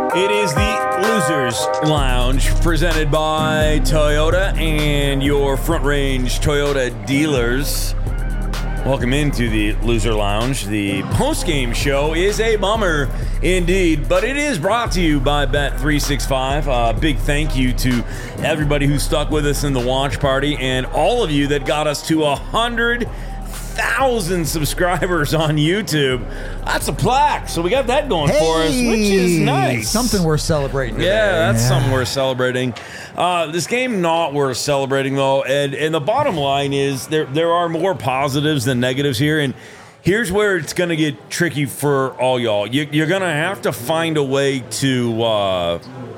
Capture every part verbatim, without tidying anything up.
It is the Losers Lounge presented by Toyota and your Front Range Toyota dealers. Welcome into the Loser Lounge. The post-game show is a bummer indeed, but it is brought to you by Bet three sixty-five. A uh, big thank you to everybody who stuck with us in the watch party and all of you that got us to one hundred thousand subscribers on YouTube. That's a plaque, so we got that going hey, for us, which is nice. Something worth celebrating today. Yeah, that's yeah. something worth celebrating. Uh, this game not worth celebrating, though, and, and the bottom line is there there are more positives than negatives here, and here's where it's going to get tricky for all y'all. You, you're going to have to find a way to... Uh,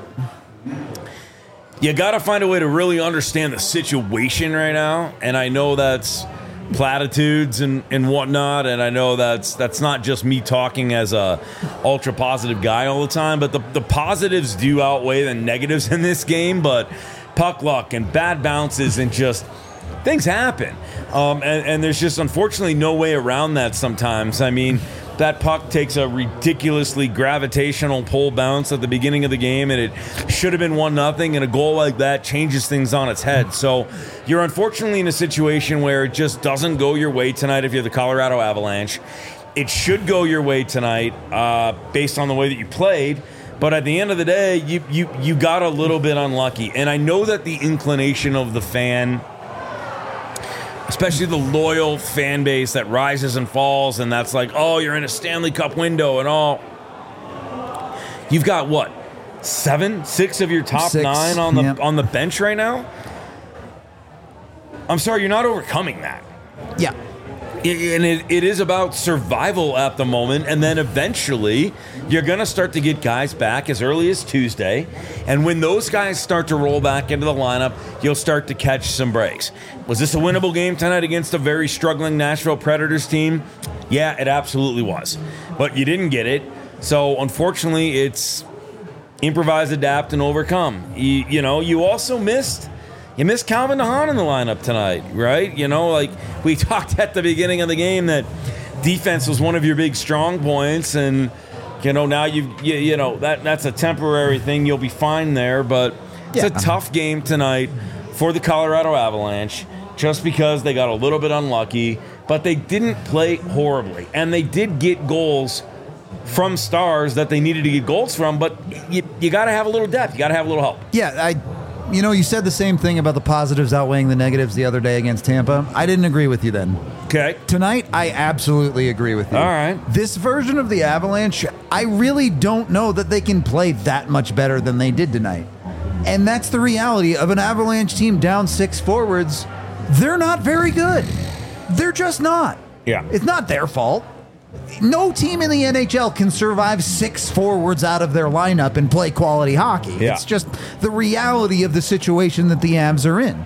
you got to find a way to really understand the situation right now, and I know that's platitudes and, and whatnot, and I know that's that's not just me talking as a ultra positive guy all the time, but the, the positives do outweigh the negatives in this game. But puck luck and bad bounces and just things happen, um, and, and there's just unfortunately no way around that sometimes. I mean, that puck takes a ridiculously gravitational pole bounce at the beginning of the game, and it should have been one nothing, and a goal like that changes things on its head. So you're unfortunately in a situation where it just doesn't go your way tonight if you're the Colorado Avalanche. It should go your way tonight uh, based on the way that you played, but at the end of the day, you, you, you got a little bit unlucky. And I know that the inclination of the fan, especially the loyal fan base that rises and falls, and that's like, oh, you're in a Stanley Cup window and all. You've got what, seven, six of your top Six, nine on the yep. on the bench right now? I'm sorry, you're not overcoming that. Yeah. It, and it, it is about survival at the moment, and then eventually you're going to start to get guys back as early as Tuesday, and when those guys start to roll back into the lineup, you'll start to catch some breaks. Was this a winnable game tonight against a very struggling Nashville Predators team? Yeah, it absolutely was, but you didn't get it, so unfortunately it's improvise, adapt, and overcome. You, you know, you also missed... You missed Calvin DeHaan in the lineup tonight, right? You know, like we talked at the beginning of the game that defense was one of your big strong points, and you know now you you, you know that that's a temporary thing. You'll be fine there, but it's yeah. a tough game tonight for the Colorado Avalanche just because they got a little bit unlucky, but they didn't play horribly, and they did get goals from stars that they needed to get goals from. But you you got to have a little depth. You got to have a little help. Yeah, I. You know, you said the same thing about the positives outweighing the negatives the other day against Tampa. I didn't agree with you then. Okay. Tonight, I absolutely agree with you. All right. This version of the Avalanche, I really don't know that they can play that much better than they did tonight. And that's the reality of an Avalanche team down six forwards. They're not very good. They're just not. Yeah. It's not their fault. No team in the N H L can survive six forwards out of their lineup and play quality hockey. Yeah. It's just the reality of the situation that the Avs are in.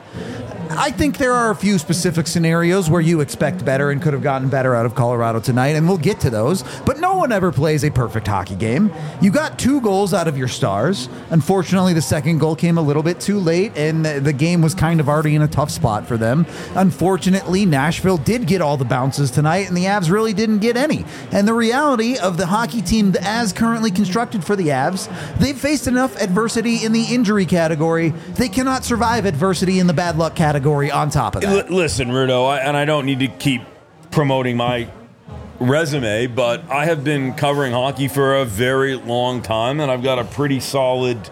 I think there are a few specific scenarios where you expect better and could have gotten better out of Colorado tonight, and we'll get to those. But no one ever plays a perfect hockey game. You got two goals out of your stars. Unfortunately, the second goal came a little bit too late, and the game was kind of already in a tough spot for them. Unfortunately, Nashville did get all the bounces tonight, and the Avs really didn't get any. And the reality of the hockey team as currently constructed for the Avs, they've faced enough adversity in the injury category. They cannot survive adversity in the bad luck category. On top of that. L- listen, Rudo, I, and I don't need to keep promoting my resume, but I have been covering hockey for a very long time, and I've got a pretty solid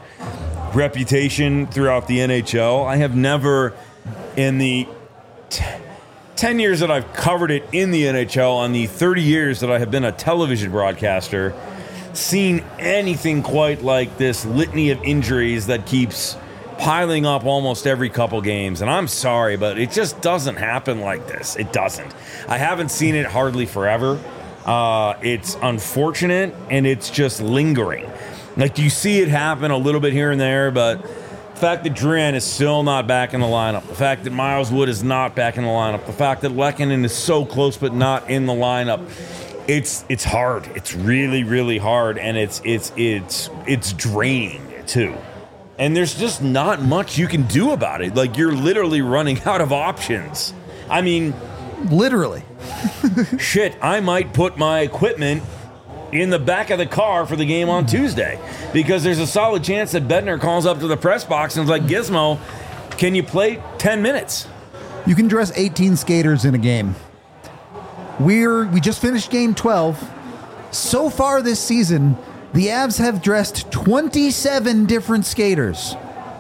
reputation throughout the N H L. I have never, in the t- ten years that I've covered it in the N H L, on the thirty years that I have been a television broadcaster, seen anything quite like this litany of injuries that keeps piling up almost every couple games. And I'm sorry, but it just doesn't happen like this. It doesn't. I haven't seen it hardly forever. Uh, it's unfortunate, and it's just lingering. Like, you see it happen a little bit here and there, but the fact that Drouin is still not back in the lineup, the fact that Miles Wood is not back in the lineup, the fact that Lehkonen is so close but not in the lineup, it's it's hard. It's really, really hard, and it's it's it's it's draining too. And there's just not much you can do about it. Like, you're literally running out of options. I mean, literally. shit, I might put my equipment in the back of the car for the game on Tuesday, because there's a solid chance that Bednar calls up to the press box and is like, Gizmo, can you play ten minutes? You can dress eighteen skaters in a game. We're we just finished game twelve. So far this season, the Avs have dressed twenty-seven different skaters.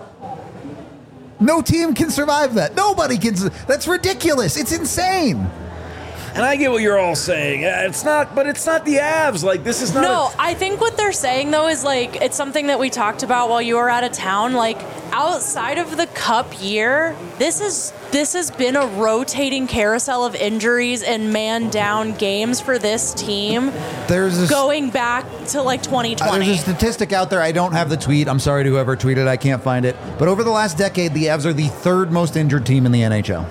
No team can survive that. Nobody can. That's ridiculous. It's insane. And I get what you're all saying. It's not, but it's not the Avs. Like, this is not. No, a- I think what they're saying, though, is like, it's something that we talked about while you were out of town. Like, outside of the Cup year, this is this has been a rotating carousel of injuries and man down games for this team. There's a, going back to like twenty twenty. uh, there's a statistic out there. I don't have the tweet. I'm sorry to whoever tweeted. I can't find it. But over the last decade, the Avs are the third most injured team in the N H L.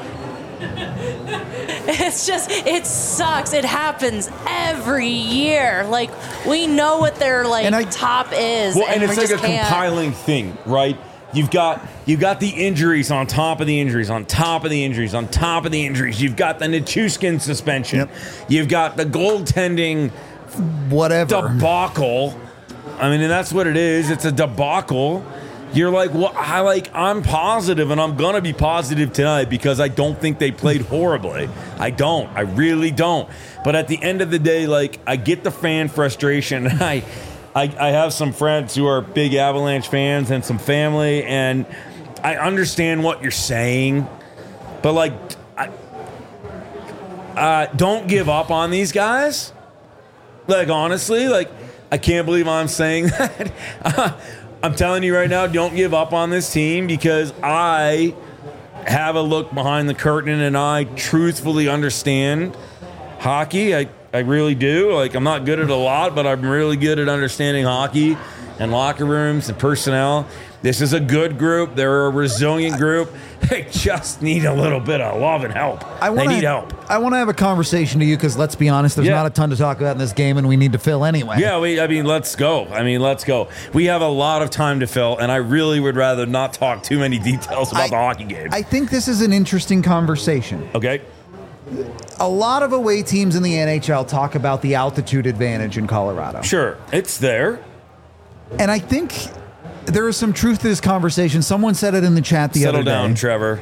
It's just, it sucks. It happens every year. Like, we know what their like And I- top is. Well, and, we it's like a just can't. compiling thing, right? You've got you've got the injuries on top of the injuries, on top of the injuries, on top of the injuries. You've got the Nichushkin suspension. Yep. You've got the goaltending Whatever. debacle. I mean, and that's what it is. It's a debacle. You're like, well, I like, I'm positive, and I'm gonna be positive tonight because I don't think they played horribly. I don't. I really don't. But at the end of the day, like, I get the fan frustration. I, I, I have some friends who are big Avalanche fans and some family, and I understand what you're saying, but like, I, uh, don't give up on these guys. Like, honestly, like, I can't believe I'm saying that. Uh, I'm telling you right now, don't give up on this team, because I have a look behind the curtain and I truthfully understand hockey. I, I really do. Like, I'm not good at a lot, but I'm really good at understanding hockey and locker rooms and personnel. This is a good group. They're a resilient group. They just need a little bit of love and help. I they wanna, need help. I want to have a conversation to you because, let's be honest, there's Yeah. not a ton to talk about in this game, and we need to fill anyway. Yeah, we, I mean, let's go. I mean, let's go. We have a lot of time to fill, and I really would rather not talk too many details about I- the hockey game. I think this is an interesting conversation. okay? A lot of away teams in the N H L talk about the altitude advantage in Colorado. Sure, it's there. And I think there is some truth to this conversation. Someone said it in the chat the Settle other down, day. Trevor.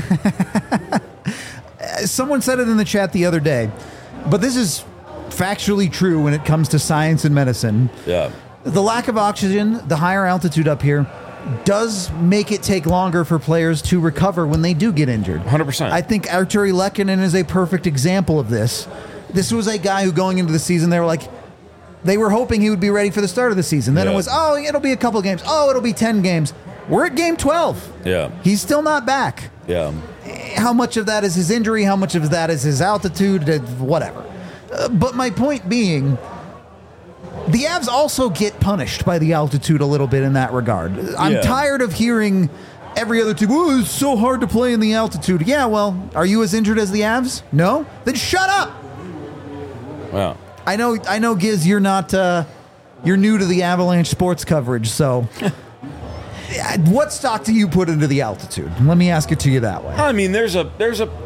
Someone said it in the chat the other day. But this is factually true when it comes to science and medicine. Yeah. The lack of oxygen, the higher altitude up here, does make it take longer for players to recover when they do get injured. one hundred percent. I think Arturi Lehkonen is a perfect example of this. This was a guy who, going into the season, they were like, they were hoping he would be ready for the start of the season. Then Yeah. it was, oh, it'll be a couple games. Oh, it'll be ten games. We're at game twelve. Yeah. He's still not back. Yeah. How much of that is his injury? How much of that is his altitude? uh, Whatever. Uh, but my point being, the Avs also get punished by the altitude a little bit in that regard. I'm Yeah. tired of hearing every other team, oh, it's so hard to play in the altitude. Yeah, well, are you as injured as the Avs? No? Then shut up! Wow. I know, I know, Giz, you're not, uh, you're new to the Avalanche sports coverage, so what stock do you put into the altitude? Let me ask it to you that way. I mean, there's a there's a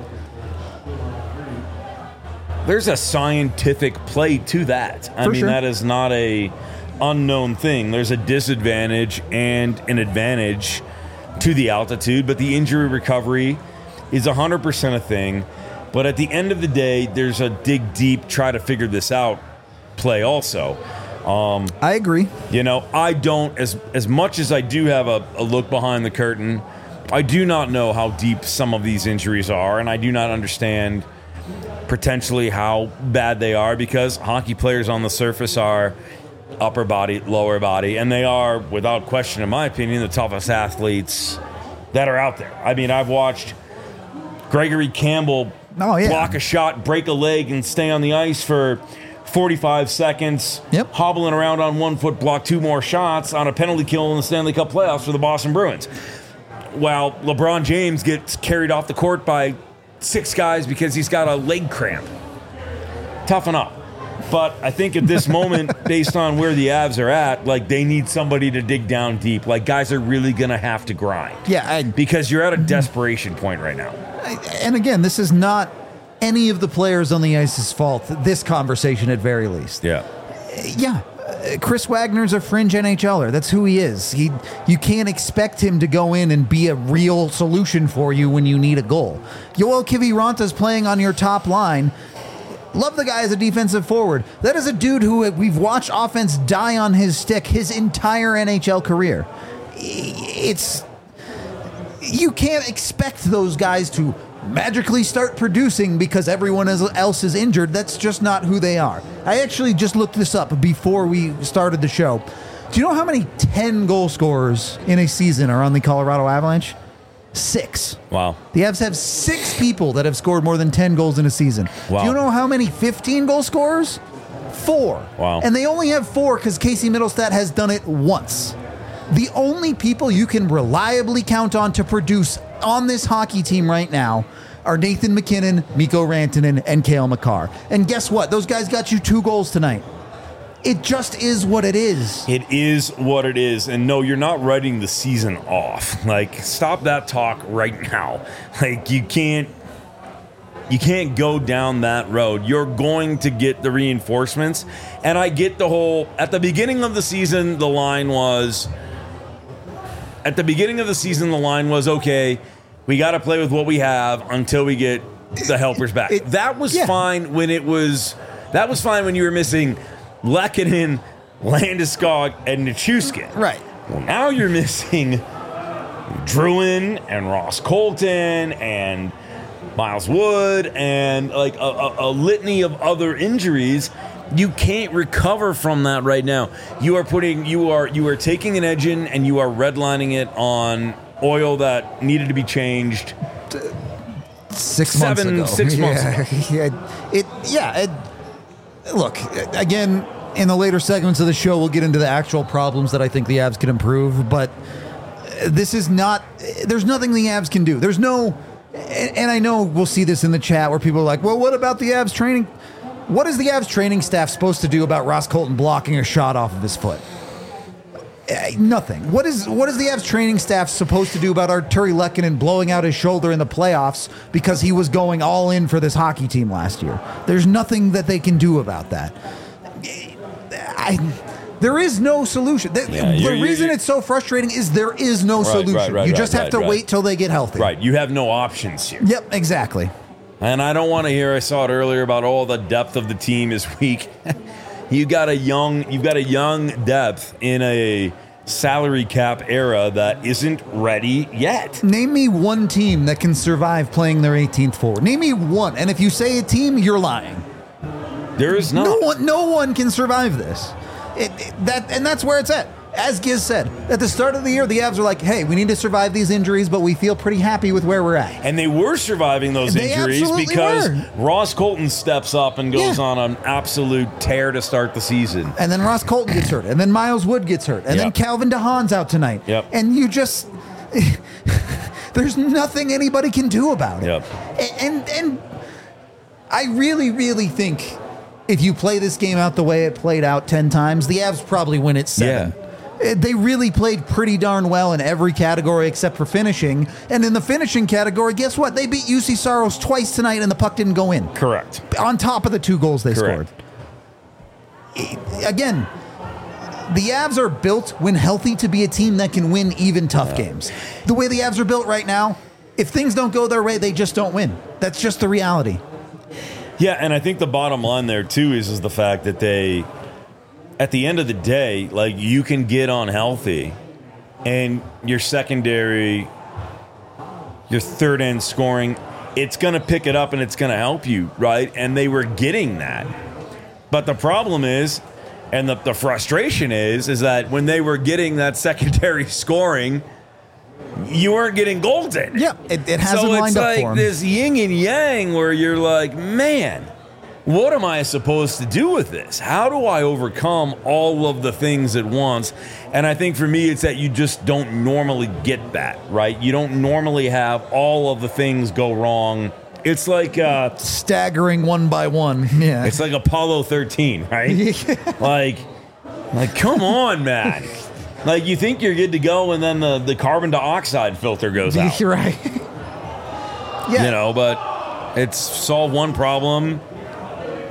there's a scientific play to that. I For mean, sure. that is not a unknown thing. There's a disadvantage and an advantage to the altitude, but the injury recovery is one hundred percent a thing. But at the end of the day, there's a dig deep, try to figure this out play also. Um, I agree. You know, I don't, as as much as I do have a, a look behind the curtain, I do not know how deep some of these injuries are, and I do not understand potentially how bad they are, because hockey players on the surface are upper body, lower body, and they are, without question, in my opinion, the toughest athletes that are out there. I mean, I've watched Gregory Campbell Oh, yeah. block a shot, break a leg, and stay on the ice for forty-five seconds, Yep. hobbling around on one foot, block two more shots on a penalty kill in the Stanley Cup playoffs for the Boston Bruins. While LeBron James gets carried off the court by six guys because he's got a leg cramp. Toughen up. But I think at this moment, based on where the Avs are at, like, they need somebody to dig down deep. Like, guys are really going to have to grind. Yeah, I, Because you're at a desperation point right now. and again, this is not any of the players on the ice's fault. This conversation, at very least. Yeah. Yeah. Uh, Chris Wagner's a fringe NHLer. That's who he is. He, you can't expect him to go in and be a real solution for you when you need a goal. Yoel Kiviranta's playing on your top line. Love the guy as a defensive forward. That is a dude who we've watched offense die on his stick his entire N H L career. It's... You can't expect those guys to magically start producing because everyone else is injured. That's just not who they are. I actually just looked this up before we started the show. Do you know how many ten goal scorers in a season are on the Colorado Avalanche? Six. Wow. The Avs have six people that have scored more than ten goals in a season. Wow. Do you know how many fifteen goal scorers? Four. Wow. And they only have four because Casey Middlestat has done it once. The only people you can reliably count on to produce on this hockey team right now are Nathan McKinnon, Mikko Rantanen, and Cale Makar. And guess what? Those guys got you two goals tonight. It just is what it is. It is what it is. And no, you're not writing the season off. Like, stop that talk right now. Like, you can't you can't go down that road. You're going to get the reinforcements. And I get the whole, at the beginning of the season, the line was, at the beginning of the season, the line was, okay, we got to play with what we have until we get the helpers back. It, that was yeah. fine when it was, that was fine when you were missing Lehkonen, Landeskog, and Nichushkin. Right. Well, now you're missing Druin and Ross Colton and Miles Wood and like a, a, a litany of other injuries. You can't recover from that right now. You are putting, you are, you are taking an engine and you are redlining it on oil that needed to be changed. Six Seven, months ago. six months yeah. ago. yeah. It, yeah. It, look, again, in the later segments of the show, we'll get into the actual problems that I think the Avs can improve. But this is not, there's nothing the Avs can do. There's no, and I know we'll see this in the chat where people are like, well, what about the Avs training? What is the Avs training staff supposed to do about Ross Colton blocking a shot off of his foot? Uh, nothing. What is what is the Avs training staff supposed to do about Artturi Lehkonen blowing out his shoulder in the playoffs because he was going all in for this hockey team last year? There's nothing that they can do about that. I, there is no solution. The, Yeah, the you're- reason you're- it's so frustrating is there is no Right, solution. right, right, you right, just have right, to right. wait till they get healthy. Right. You have no options here. Yep, exactly. And I don't want to hear, I saw it earlier about all the depth of the team is weak. you got a young, you've got a young depth in a salary cap era that isn't ready yet. Name me one team that can survive playing their eighteenth forward. Name me one. And if you say a team, you're lying. There is not. No one, no one can survive this. It, it- that, and that's where it's at. As Giz said, at the start of the year, the Avs are like, hey, we need to survive these injuries, but we feel pretty happy with where we're at. And they were surviving those They injuries absolutely because were. Ross Colton steps up and goes Yeah. on an absolute tear to start the season. And then Ross Colton gets hurt. And then Miles Wood gets hurt. And then Yep. Calvin DeHaan's out tonight. Yep. And you just... there's nothing anybody can do about it. Yep. A- And, and I really, really think if you play this game out the way it played out ten times, the Avs probably win it seven. Yeah. Uh, They really played pretty darn well in every category except for finishing. And in the finishing category, guess what? They beat U C Saros twice tonight and the puck didn't go in. Correct. On top of the two goals they Correct. scored. Again, the Avs are built when healthy to be a team that can win even tough games. The way the Avs are built right now, if things don't go their way, they just don't win. That's just the reality. Yeah, and I think the bottom line there too is is the fact that they, at the end of the day, like you can get unhealthy, and your secondary, your third end scoring, it's going to pick it up and it's going to help you, right? And they were getting that, but the problem is, and the, the frustration is, is that when they were getting that secondary scoring, you weren't getting goals in. Yeah, it, it hasn't so lined it's up like for them. this yin and yang where you're like, man, what am I supposed to do with this? How do I overcome all of the things at once? And I think for me, it's that you just don't normally get that, right? You don't normally have all of the things go wrong. It's like uh, Staggering one by one. Yeah. it's like Apollo thirteen, right? like, like, come on, man. Like, you think you're good to go, and then the, the carbon dioxide filter goes out. You're right. Yeah. You know, but it's solve one problem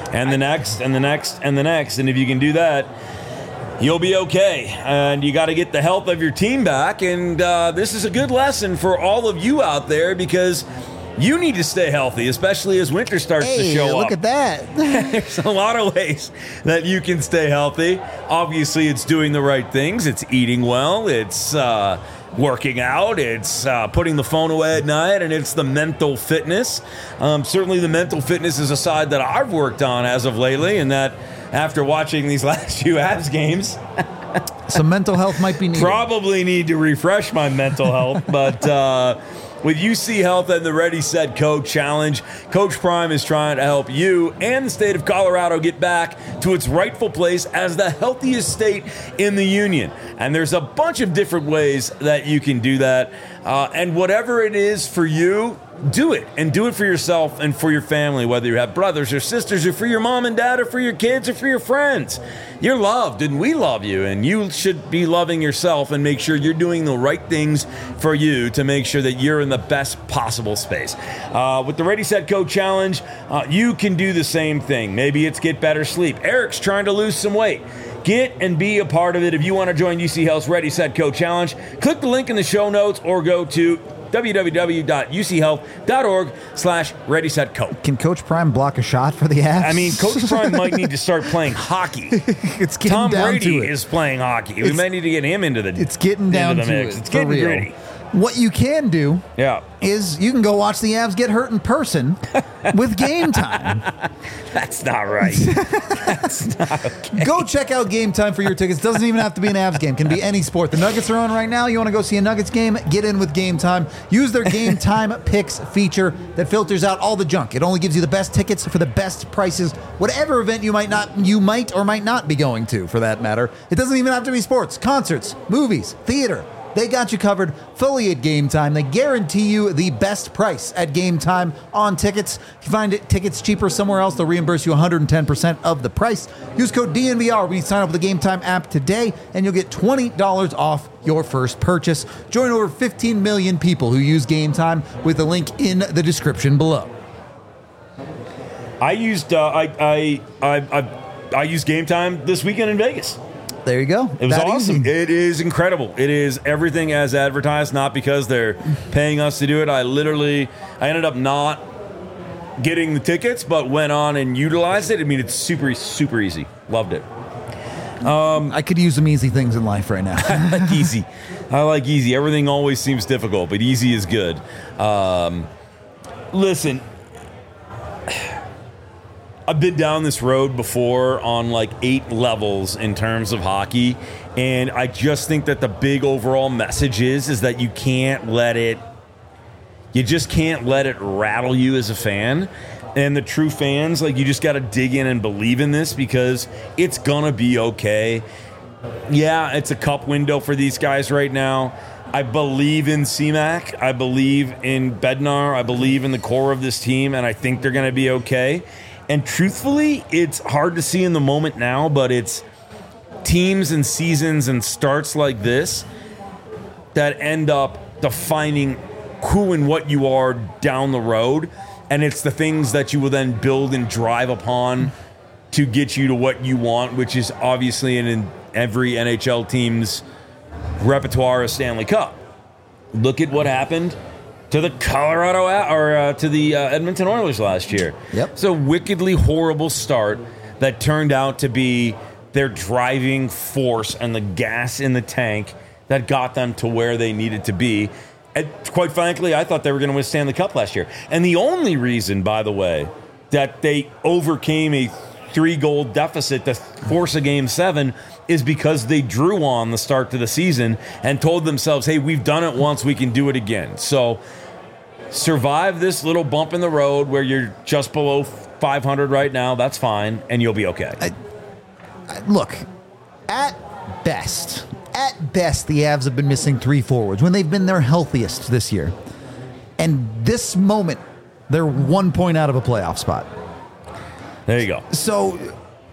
and the next, and the next, and the next. And if you can do that, you'll be okay. And you got to get the health of your team back. And uh, this is a good lesson for all of you out there because you need to stay healthy, especially as winter starts Hey, to show look up. at that. There's a lot of ways that you can stay healthy. Obviously, it's doing the right things. It's eating well. It's uh, working out. It's uh, putting the phone away at night. And it's the mental fitness. Um, certainly, the mental fitness is a side that I've worked on as of lately. And that after watching these last few Avs games, Some mental health might be needed. probably need to refresh my mental health. But uh, with U C Health and the Ready, Set, Go Challenge, Coach Prime is trying to help you and the state of Colorado get back to its rightful place as the healthiest state in the union. And there's a bunch of different ways that you can do that. Uh, and whatever it is for you, do it. And do it for yourself and for your family, whether you have brothers or sisters or for your mom and dad or for your kids or for your friends. You're loved and we love you, and you should be loving yourself and make sure you're doing the right things for you to make sure that you're in the best possible space. Uh, with the Ready, Set, Go Challenge, uh, you can do the same thing. Maybe it's get better sleep. Eric's trying to lose some weight. Get and be a part of it. If you want to join U C Health's Ready, Set, Go Challenge, click the link in the show notes or go to www.uchealth.org slash ready, set, go. Can Coach Prime block a shot for the Avs? I mean, Coach Prime might need to start playing hockey. it's getting Tom down Brady to it. is playing hockey. We It's- may need to get him into the It's getting down into the to mix. it. It's for getting real. gritty. What you can do Yeah. is you can go watch the Avs get hurt in person with Game Time. That's not right. That's not okay. Go check out Game Time for your tickets. Doesn't even have to be an Avs game. Can be any sport. The Nuggets are on right now. You want to go see a Nuggets game? Get in with Game Time. Use their Game Time Picks feature that filters out all the junk. It only gives you the best tickets for the best prices. Whatever event you might not, you might or might not be going to, for that matter. It doesn't even have to be sports, concerts, movies, theater. They got you covered fully at Game Time. They guarantee you the best price at Game Time on tickets. If you find it, tickets cheaper somewhere else, they'll reimburse you one hundred ten percent of the price. Use code D N V R when you sign up with the Game Time app today, and you'll get twenty dollars off your first purchase. Join over fifteen million people who use Game Time with the link in the description below. I used uh, I, I I I I used Game Time this weekend in Vegas. There you go. It was That awesome. easy. It is incredible. It is everything as advertised, not because they're paying us to do it. I literally, I ended up not getting the tickets, but went on and utilized it. I mean, it's super, super easy. Loved it. I could use some easy things in life right now. I like easy. I like easy. Everything always seems difficult, but easy is good. Um, listen, I've been down this road before on like eight levels in terms of hockey, and I just think that the big overall message is is that you can't let it, you just can't let it rattle you as a fan. And the true fans, like, you just got to dig in and believe in this because it's gonna be okay. Yeah, it's a cup window for these guys right now. I believe in C MAC. I believe in Bednar. I believe in the core of this team, and I think they're going to be okay. And truthfully, it's hard to see in the moment now, but it's teams and seasons and starts like this that end up defining who and what you are down the road. And it's the things that you will then build and drive upon to get you to what you want, which is obviously in, in every N H L team's repertoire a Stanley Cup. Look at what happened to the Colorado or uh, to the uh, Edmonton Oilers last year. Yep. It's a wickedly horrible start that turned out to be their driving force and the gas in the tank that got them to where they needed to be. And quite frankly, I thought they were going to withstand the Cup last year. And the only reason, by the way, that they overcame a three-goal deficit to force a Game seven is because they drew on the start to the season and told themselves, hey, we've done it once, we can do it again. So survive this little bump in the road where you're just below five hundred right now. That's fine, and you'll be okay. I, I, look, at best, at best, the Avs have been missing three forwards when they've been their healthiest this year. And this moment, they're one point out of a playoff spot. There you go. So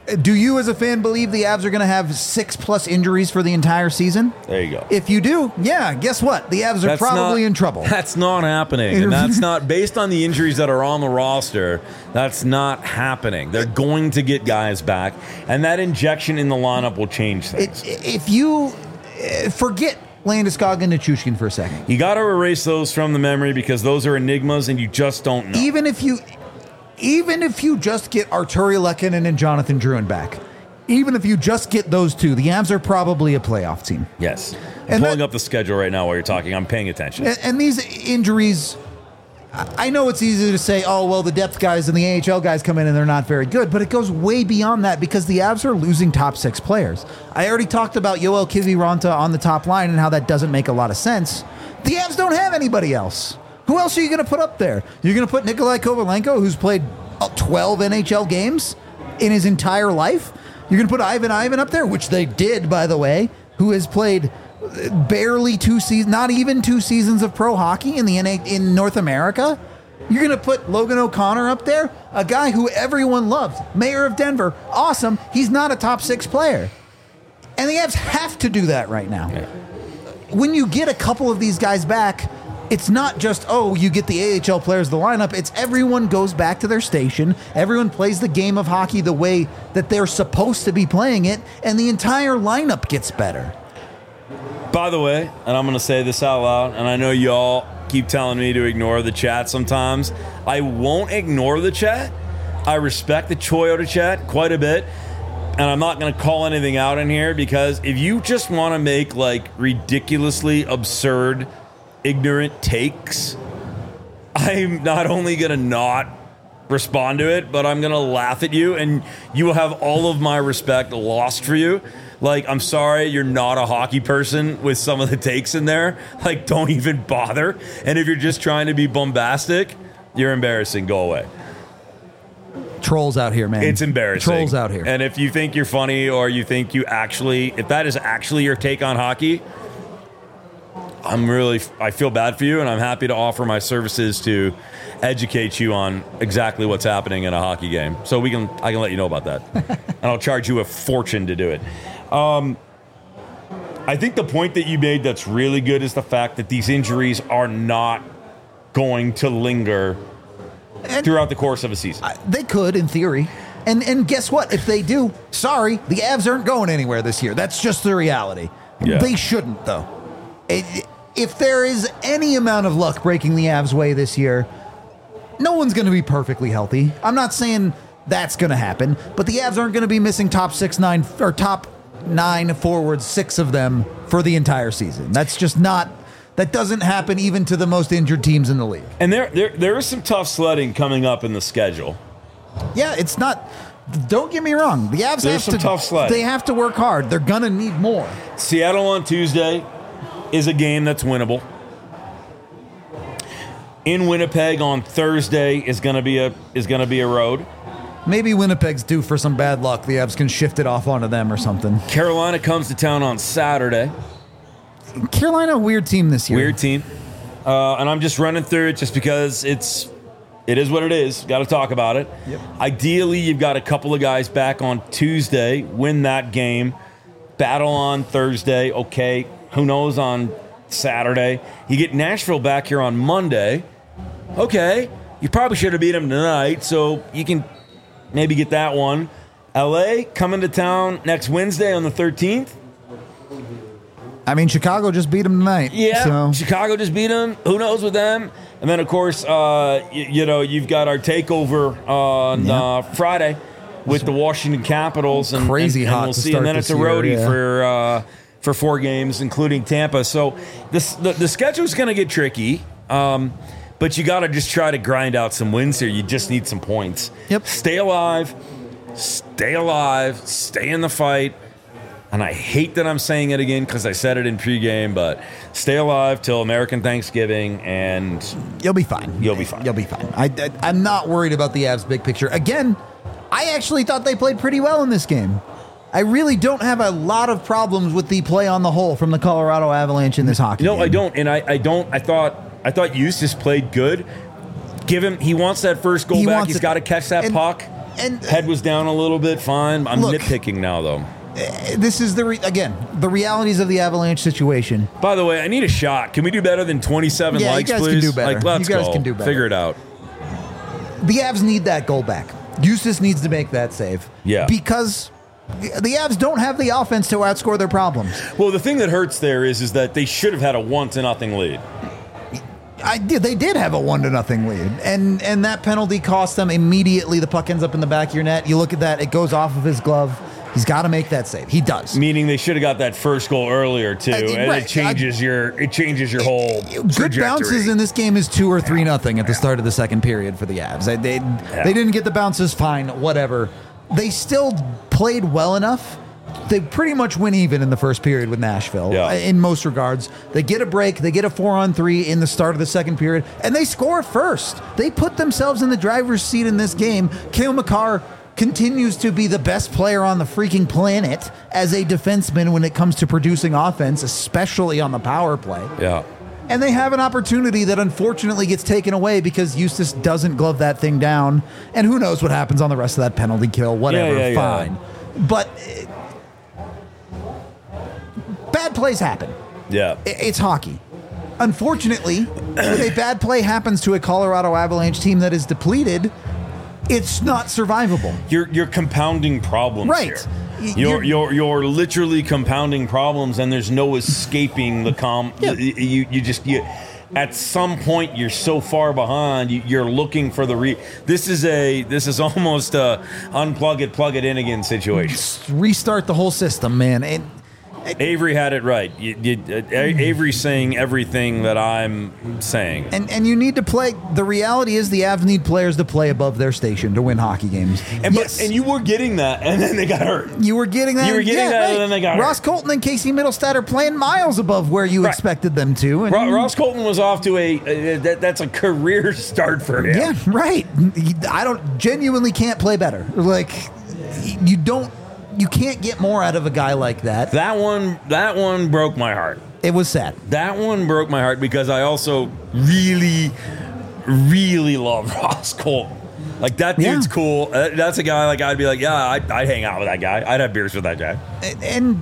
Do you, as a fan, believe the Avs are going to have six plus injuries for the entire season? There you go. If you do, yeah, guess what? The Avs are That's probably not- in trouble. That's not happening. And that's not, based on the injuries that are on the roster, that's not happening. They're going to get guys back, and that injection in the lineup will change things. It, if you uh, forget Landeskog and Nichushkin for a second, You got to erase those from the memory because those are enigmas, and you just don't know. even if you, even if you just get Arturi Lehkonen and Jonathan Drouin back, even if you just get those two, the Avs are probably a playoff team. Yes. I'm And pulling that- up the schedule right now while you're talking. I'm paying attention. And, and these injuries, I I know it's easy to say, oh, well, the depth guys and the A H L guys come in and they're not very good, but it goes way beyond that because the Avs are losing top six players. I already talked about Yoel Kiviranta on the top line and how that doesn't make a lot of sense. The Avs don't have anybody else. Who else are you going to put up there? You're going to put Nikolai Kovalenko, who's played twelve N H L games in his entire life? You're going to put Ivan Ivan up there, which they did, by the way, who has played barely two seasons, not even two seasons of pro hockey in the N A in North America. You're going to put Logan O'Connor up there, a guy who everyone loves, mayor of Denver, awesome. He's not a top six player. And the Avs have to do that right now. Yeah. When you get a couple of these guys back, it's not just, oh, you get the A H L players, the lineup. It's everyone goes back to their station. Everyone plays the game of hockey the way that they're supposed to be playing it, and the entire lineup gets better. By the way, and I'm going to say this out loud, and I know y'all keep telling me to ignore the chat sometimes. I won't ignore the chat. I respect the Toyota chat quite a bit, and I'm not going to call anything out in here because if you just want to make like ridiculously absurd, ignorant takes, I'm not only going to not respond to it, but I'm going to laugh at you, and you will have all of my respect lost for you. Like, I'm sorry you're not a hockey person with some of the takes in there. Like, don't even bother. And if you're just trying to be bombastic, you're embarrassing. Go away. Trolls out here, man. It's embarrassing. Trolls out here. And if you think you're funny or you think you actually, if that is actually your take on hockey, I'm really, I feel bad for you, and I'm happy to offer my services to educate you on exactly what's happening in a hockey game. So we can, I can let you know about that. And I'll charge you a fortune to do it. Um, I think the point that you made that's really good is the fact that these injuries are not going to linger And- throughout the course of a season. I- They could, in theory. And and guess what? If they do, sorry, the Avs aren't going anywhere this year. That's just the reality. Yeah. They shouldn't, though. It, if there is any amount of luck breaking the Avs' way this year, no one's going to be perfectly healthy. I'm not saying that's going to happen, but the Avs aren't going to be missing top six, nine, or top nine forwards, six of them for the entire season. That's just not. That doesn't happen even to the most injured teams in the league. And there, there, there is some tough sledding coming up in the schedule. Yeah, it's not. Don't get me wrong. The Avs There's have some to. tough sledding. They have to work hard. They're gonna need more. Seattle on Tuesday is a game that's winnable. In Winnipeg on Thursday is going to be a is going to be a road. Maybe Winnipeg's due for some bad luck. The Avs can shift it off onto them or something. Carolina comes to town on Saturday. Carolina, a weird team this year. Weird team. Uh, and I'm just running through it just because it's it is what it is. Got to talk about it. Yep. Ideally, you've got a couple of guys back on Tuesday, win that game, battle on Thursday. Okay, who knows on Saturday? You get Nashville back here on Monday. Okay, you probably should have beat them tonight, so you can maybe get that one. L A coming to town next Wednesday on the thirteenth. I mean, Chicago just beat them tonight. Yeah, So. Chicago just beat them. Who knows with them? And then, of course, uh, you, you know, you've got our takeover on Yeah. uh, Friday with the Washington Capitals. And, Crazy and, and hot we'll to see. start And then this it's a year, roadie yeah. for uh, for four games, including Tampa. So this, the, the schedule's going to get tricky. Um, but you got to just try to grind out some wins here. You just need some points. Yep. Stay alive. Stay alive. Stay in the fight. And I hate that I'm saying it again because I said it in pregame, but stay alive till American Thanksgiving, and You'll be fine. You'll be fine. You'll be fine. I, I, I'm not worried about the Avs' big picture. Again, I actually thought they played pretty well in this game. I really don't have a lot of problems with the play on the whole from the Colorado Avalanche in this hockey no, game. I don't. And I, I don't. I thought I thought Eustace played good. Give him. He wants that first goal He back. wants He's it. got to catch that And- puck. And Head was down a little bit, fine. I'm Look. nitpicking now, though. this is the re- again the realities of the Avalanche situation. By the way, I need a shot. Can we do better than twenty-seven Yeah, you likes, guys can please? do better. Like, let's You guys go. can do better. Figure it out. The Avs need that goal back. Eustace needs to make that save. Yeah. Because the Avs don't have the offense to outscore their problems. Well, the thing that hurts there is, is that they should have had a one to nothing lead. I did. They did have a one to nothing lead, and and that penalty cost them immediately. The puck ends up in the back of your net. You look at that; it goes off of his glove. He's got to make that save. He does. Meaning they should have got that first goal earlier too, Uh, and right. it changes your it changes your whole Good trajectory. bounces in this game is two or three nothing at the start of the second period for the Avs. They they, they didn't get the bounces. Fine, whatever. They still played well enough. They pretty much win even in the first period with Nashville, Yeah. in most regards. They get a break. They get a four on three in the start of the second period, and they score first. They put themselves in the driver's seat in this game. Cale Makar continues to be the best player on the freaking planet as a defenseman when it comes to producing offense, especially on the power play. Yeah. And they have an opportunity that unfortunately gets taken away because Eustace doesn't glove that thing down. And who knows what happens on the rest of that penalty kill, whatever, Yeah, yeah, yeah. fine. But uh, bad plays happen. Yeah. I- It's hockey. Unfortunately, when a bad play happens to a Colorado Avalanche team that is depleted, it's not survivable. You're you're compounding problems Right. here. Y- You're, you're- you're you're literally compounding problems, and there's no escaping the com. Yeah. You, you you just you. At some point, you're so far behind. You, you're looking for the re. This is a this is almost a unplug it, plug it in again situation. Restart the whole system, man. And Avery had it right. You, you, uh, A- Avery's saying everything that I'm saying. And and you need to play. The reality is the Avs need players to play above their station to win hockey games. And, yes, but, and you were getting that, and then they got hurt. you were getting that. you were getting yeah, that, right. and then they got Ross hurt. Colton and Casey Middlestad are playing miles above where you Right. expected them to. And Ro- Ross Colton was off to a uh, that, that's a career start for him. yeah, right. I don't genuinely can't play better. Like you don't. You can't get more out of a guy like that. That one that one broke my heart. It was sad. That one broke my heart because I also really, really love Ross Colton. Like, that dude's Yeah. cool. Uh, That's a guy, like, I'd be like, yeah, I'd, I'd hang out with that guy. I'd have beers with that guy. and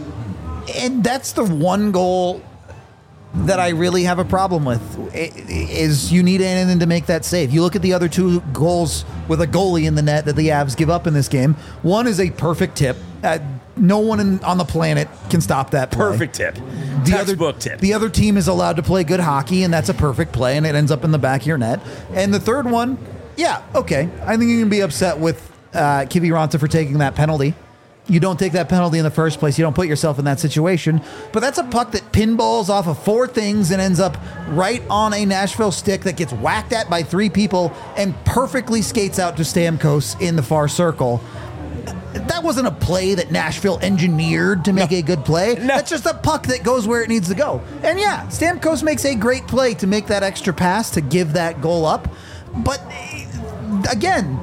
and that's the one goal that I really have a problem with i- is you need anything to make that save. You look at the other two goals with a goalie in the net that the Avs give up in this game. One is a perfect tip. Uh, no one in, on the planet can stop that play. Perfect tip. The Textbook other, tip. The other team is allowed to play good hockey, and that's a perfect play, and it ends up in the back of your net. And the third one, yeah, okay. I think you can be upset with uh, Kiviranta for taking that penalty. You don't take that penalty in the first place. You don't put yourself in that situation. But that's a puck that pinballs off of four things and ends up right on a Nashville stick that gets whacked at by three people and perfectly skates out to Stamkos in the far circle. That wasn't a play that Nashville engineered to make No. a good play. No. That's just a puck that goes where it needs to go. And yeah, Stamkos makes a great play to make that extra pass to give that goal up. But eh, again,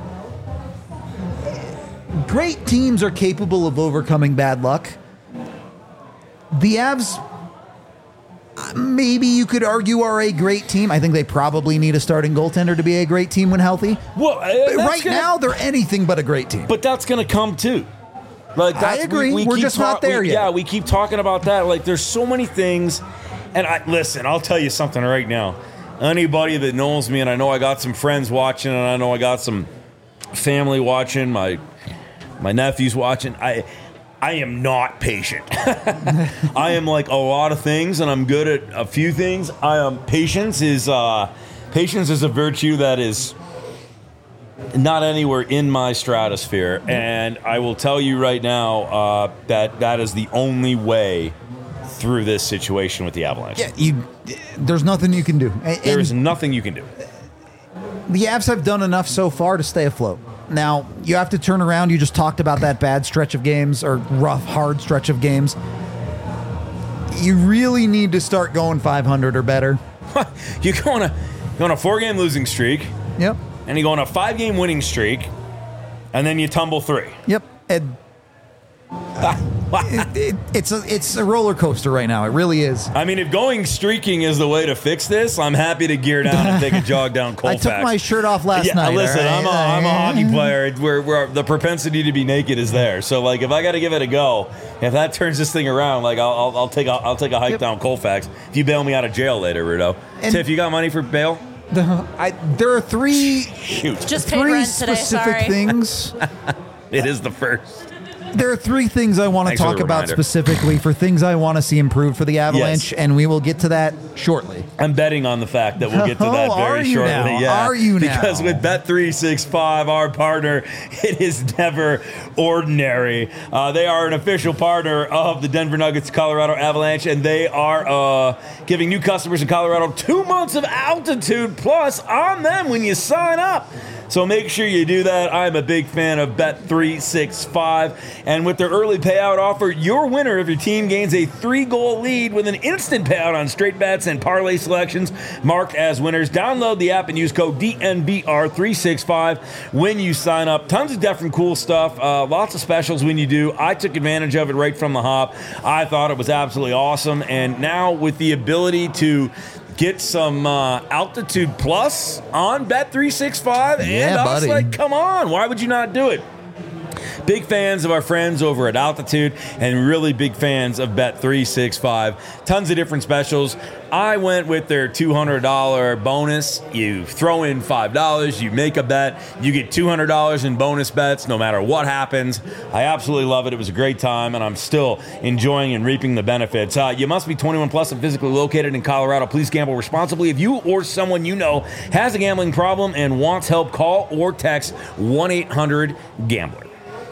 great teams are capable of overcoming bad luck. The Avs, uh, maybe you could argue, are a great team. I think they probably need a starting goaltender to be a great team when healthy. Well, uh, But that's right gonna- now, they're anything but a great team. But that's going to come too. Like, I that's, agree. We, we We're keep just not there we- yet. Yeah, we keep talking about that. Like, there's so many things. And I listen, I'll tell you something right now. Anybody that knows me, and I know I got some friends watching, and I know I got some family watching, my my nephew's watching. I I am not patient. I am like a lot of things, and I'm good at a few things. I am patience is uh, patience is a virtue that is not anywhere in my stratosphere, and I will tell you right now uh, that that is the only way through this situation with the Avalanche. yeah, you, there's nothing you can do. And, There is and nothing you can do. the Avs have done enough so far to stay afloat. Now, you have to turn around. You just talked about that bad stretch of games or rough, hard stretch of games. You really need to start going five hundred or better. You go on a you go on a four game losing streak, Yep. and you go on a five game winning streak, and then you tumble three. Yep. And it, it, it's a it's a roller coaster right now. It really is. I mean, if going streaking is the way to fix this, I'm happy to gear down and take a jog down Colfax. I took my shirt off last yeah, night. Listen, right? I'm, a, I'm a hockey player where, where the propensity to be naked is there. So, like, if I got to give it a go, if that turns this thing around, like, I'll, I'll, I'll take a, I'll take a hike yep. down Colfax. If you bail me out of jail later, Rudo. And Tiff, you got money for bail? The, I, there are three, Shoot. Just paid three rent today, specific sorry. things. It is the first. There are three things I want to Thanks for talk the about reminder. specifically for things I want to see improved for the Avalanche, Yes. and we will get to that shortly. I'm betting on the fact that we'll get to that Oh, very are you shortly. now? Yeah, Are you now? Because with Bet three sixty-five, our partner, it is never ordinary. Uh, they are an official partner of the Denver Nuggets Colorado Avalanche, and they are uh, giving new customers in Colorado two months of altitude plus on them when you sign up. So make sure you do that. I'm a big fan of Bet three sixty-five. And with their early payout offer, your winner if your team gains a three-goal lead with an instant payout on straight bets and parlay selections marked as winners. Download the app and use code D N V R three sixty-five when you sign up. Tons of different cool stuff. Uh, lots of specials when you do. I took advantage of it right from the hop. I thought it was absolutely awesome. And now with the ability to get some uh, altitude plus on Bet three sixty-five. And yeah, I was buddy. like, come on, why would you not do it? Big fans of our friends over at Altitude and really big fans of Bet three sixty-five. Tons of different specials. I went with their two hundred dollars bonus. You throw in five dollars, you make a bet, you get two hundred dollars in bonus bets no matter what happens. I absolutely love it. It was a great time, and I'm still enjoying and reaping the benefits. Uh, you must be twenty-one plus and physically located in Colorado. Please gamble responsibly. If you or someone you know has a gambling problem and wants help, call or text one eight hundred gambler.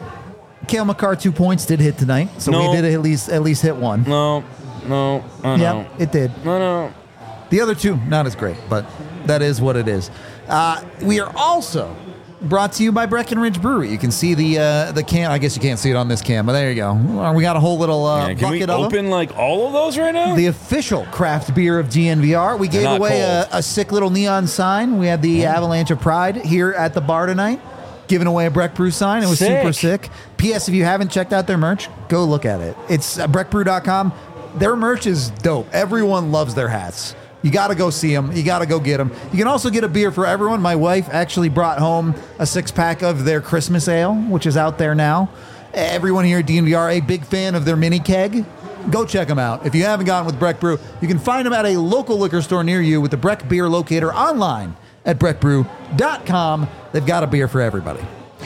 Cale Makar two points did hit tonight, so No. we did at least at least hit one. No, no, I know. Yeah, it did. No, no. The other two, not as great, but that is what it is. Uh, we are also brought to you by Breckenridge Brewery. You can see the uh, the can. I guess you can't see it on this cam, but there you go. Uh, We got a whole little uh, Yeah, can we bucket of them. open like all of those right now? The official craft beer of D N V R. We gave not away a, cold. a sick little neon sign. We had the Avalanche of Pride here at the bar tonight, giving away a Breck Brew sign. It was Sick. super sick. P S. If you haven't checked out their merch, go look at it. It's uh, breck brew dot com. Their merch is dope. Everyone loves their hats. You got to go see them. You got to go get them. You can also get a beer for everyone. My wife actually brought home a six pack of their Christmas ale, which is out there now. Everyone here at D N V R, a big fan of their mini keg. Go check them out. If you haven't gotten with Breck Brew, you can find them at a local liquor store near you with the Breck Beer Locator online at breck brew dot com. They've got a beer for everybody.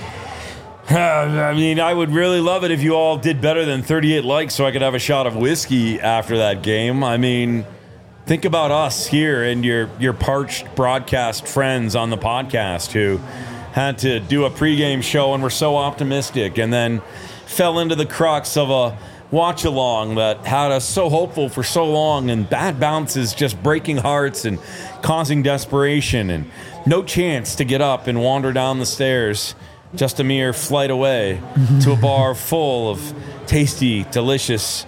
I mean, I would really love it if you all did better than thirty-eight likes so I could have a shot of whiskey after that game. I mean, think about us here and your, your parched broadcast friends on the podcast who had to do a pregame show and were so optimistic and then fell into the crux of a watch along that had us so hopeful for so long, and bad bounces just breaking hearts and causing desperation and no chance to get up and wander down the stairs. Just a mere flight away to a bar full of tasty, delicious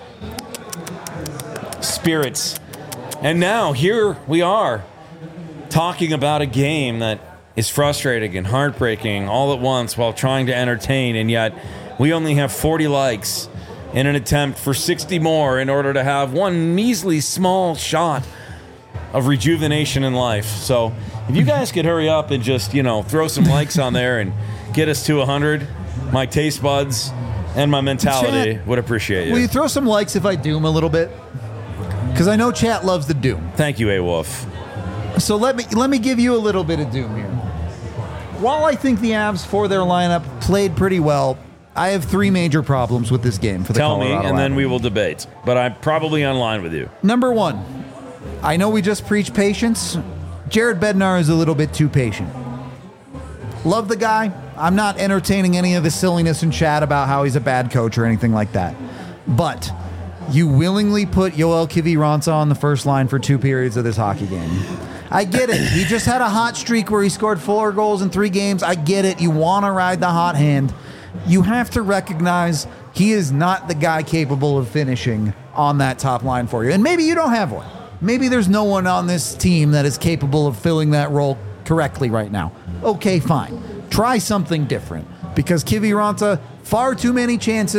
spirits. And now here we are talking about a game that is frustrating and heartbreaking all at once while trying to entertain, and yet we only have forty likes in an attempt for sixty more in order to have one measly small shot of rejuvenation in life. So if you guys could hurry up and just, you know, throw some likes on there and get us to one hundred, my taste buds and my mentality Chat, would appreciate you. Will you throw some likes if I doom a little bit? Because I know chat loves the doom. Thank you, A-Wolf. So let me let me give you a little bit of doom here. While I think the Avs for their lineup played pretty well, I have three major problems with this game for the Tell me, Colorado and then we Avalanche. will debate. But I'm probably on line with you. Number one, I know we just preach patience. Jared Bednar is a little bit too patient. Love the guy. I'm not entertaining any of the silliness in chat about how he's a bad coach or anything like that. But you willingly put Yoel Kiviranta on the first line for two periods of this hockey game. I get it. He just had a hot streak where he scored four goals in three games. I get it. You want to ride the hot hand. You have to recognize he is not the guy capable of finishing on that top line for you. And maybe you don't have one. Maybe there's no one on this team that is capable of filling that role correctly right now. Okay, fine. Try something different. Because Kiviranta, far too many chances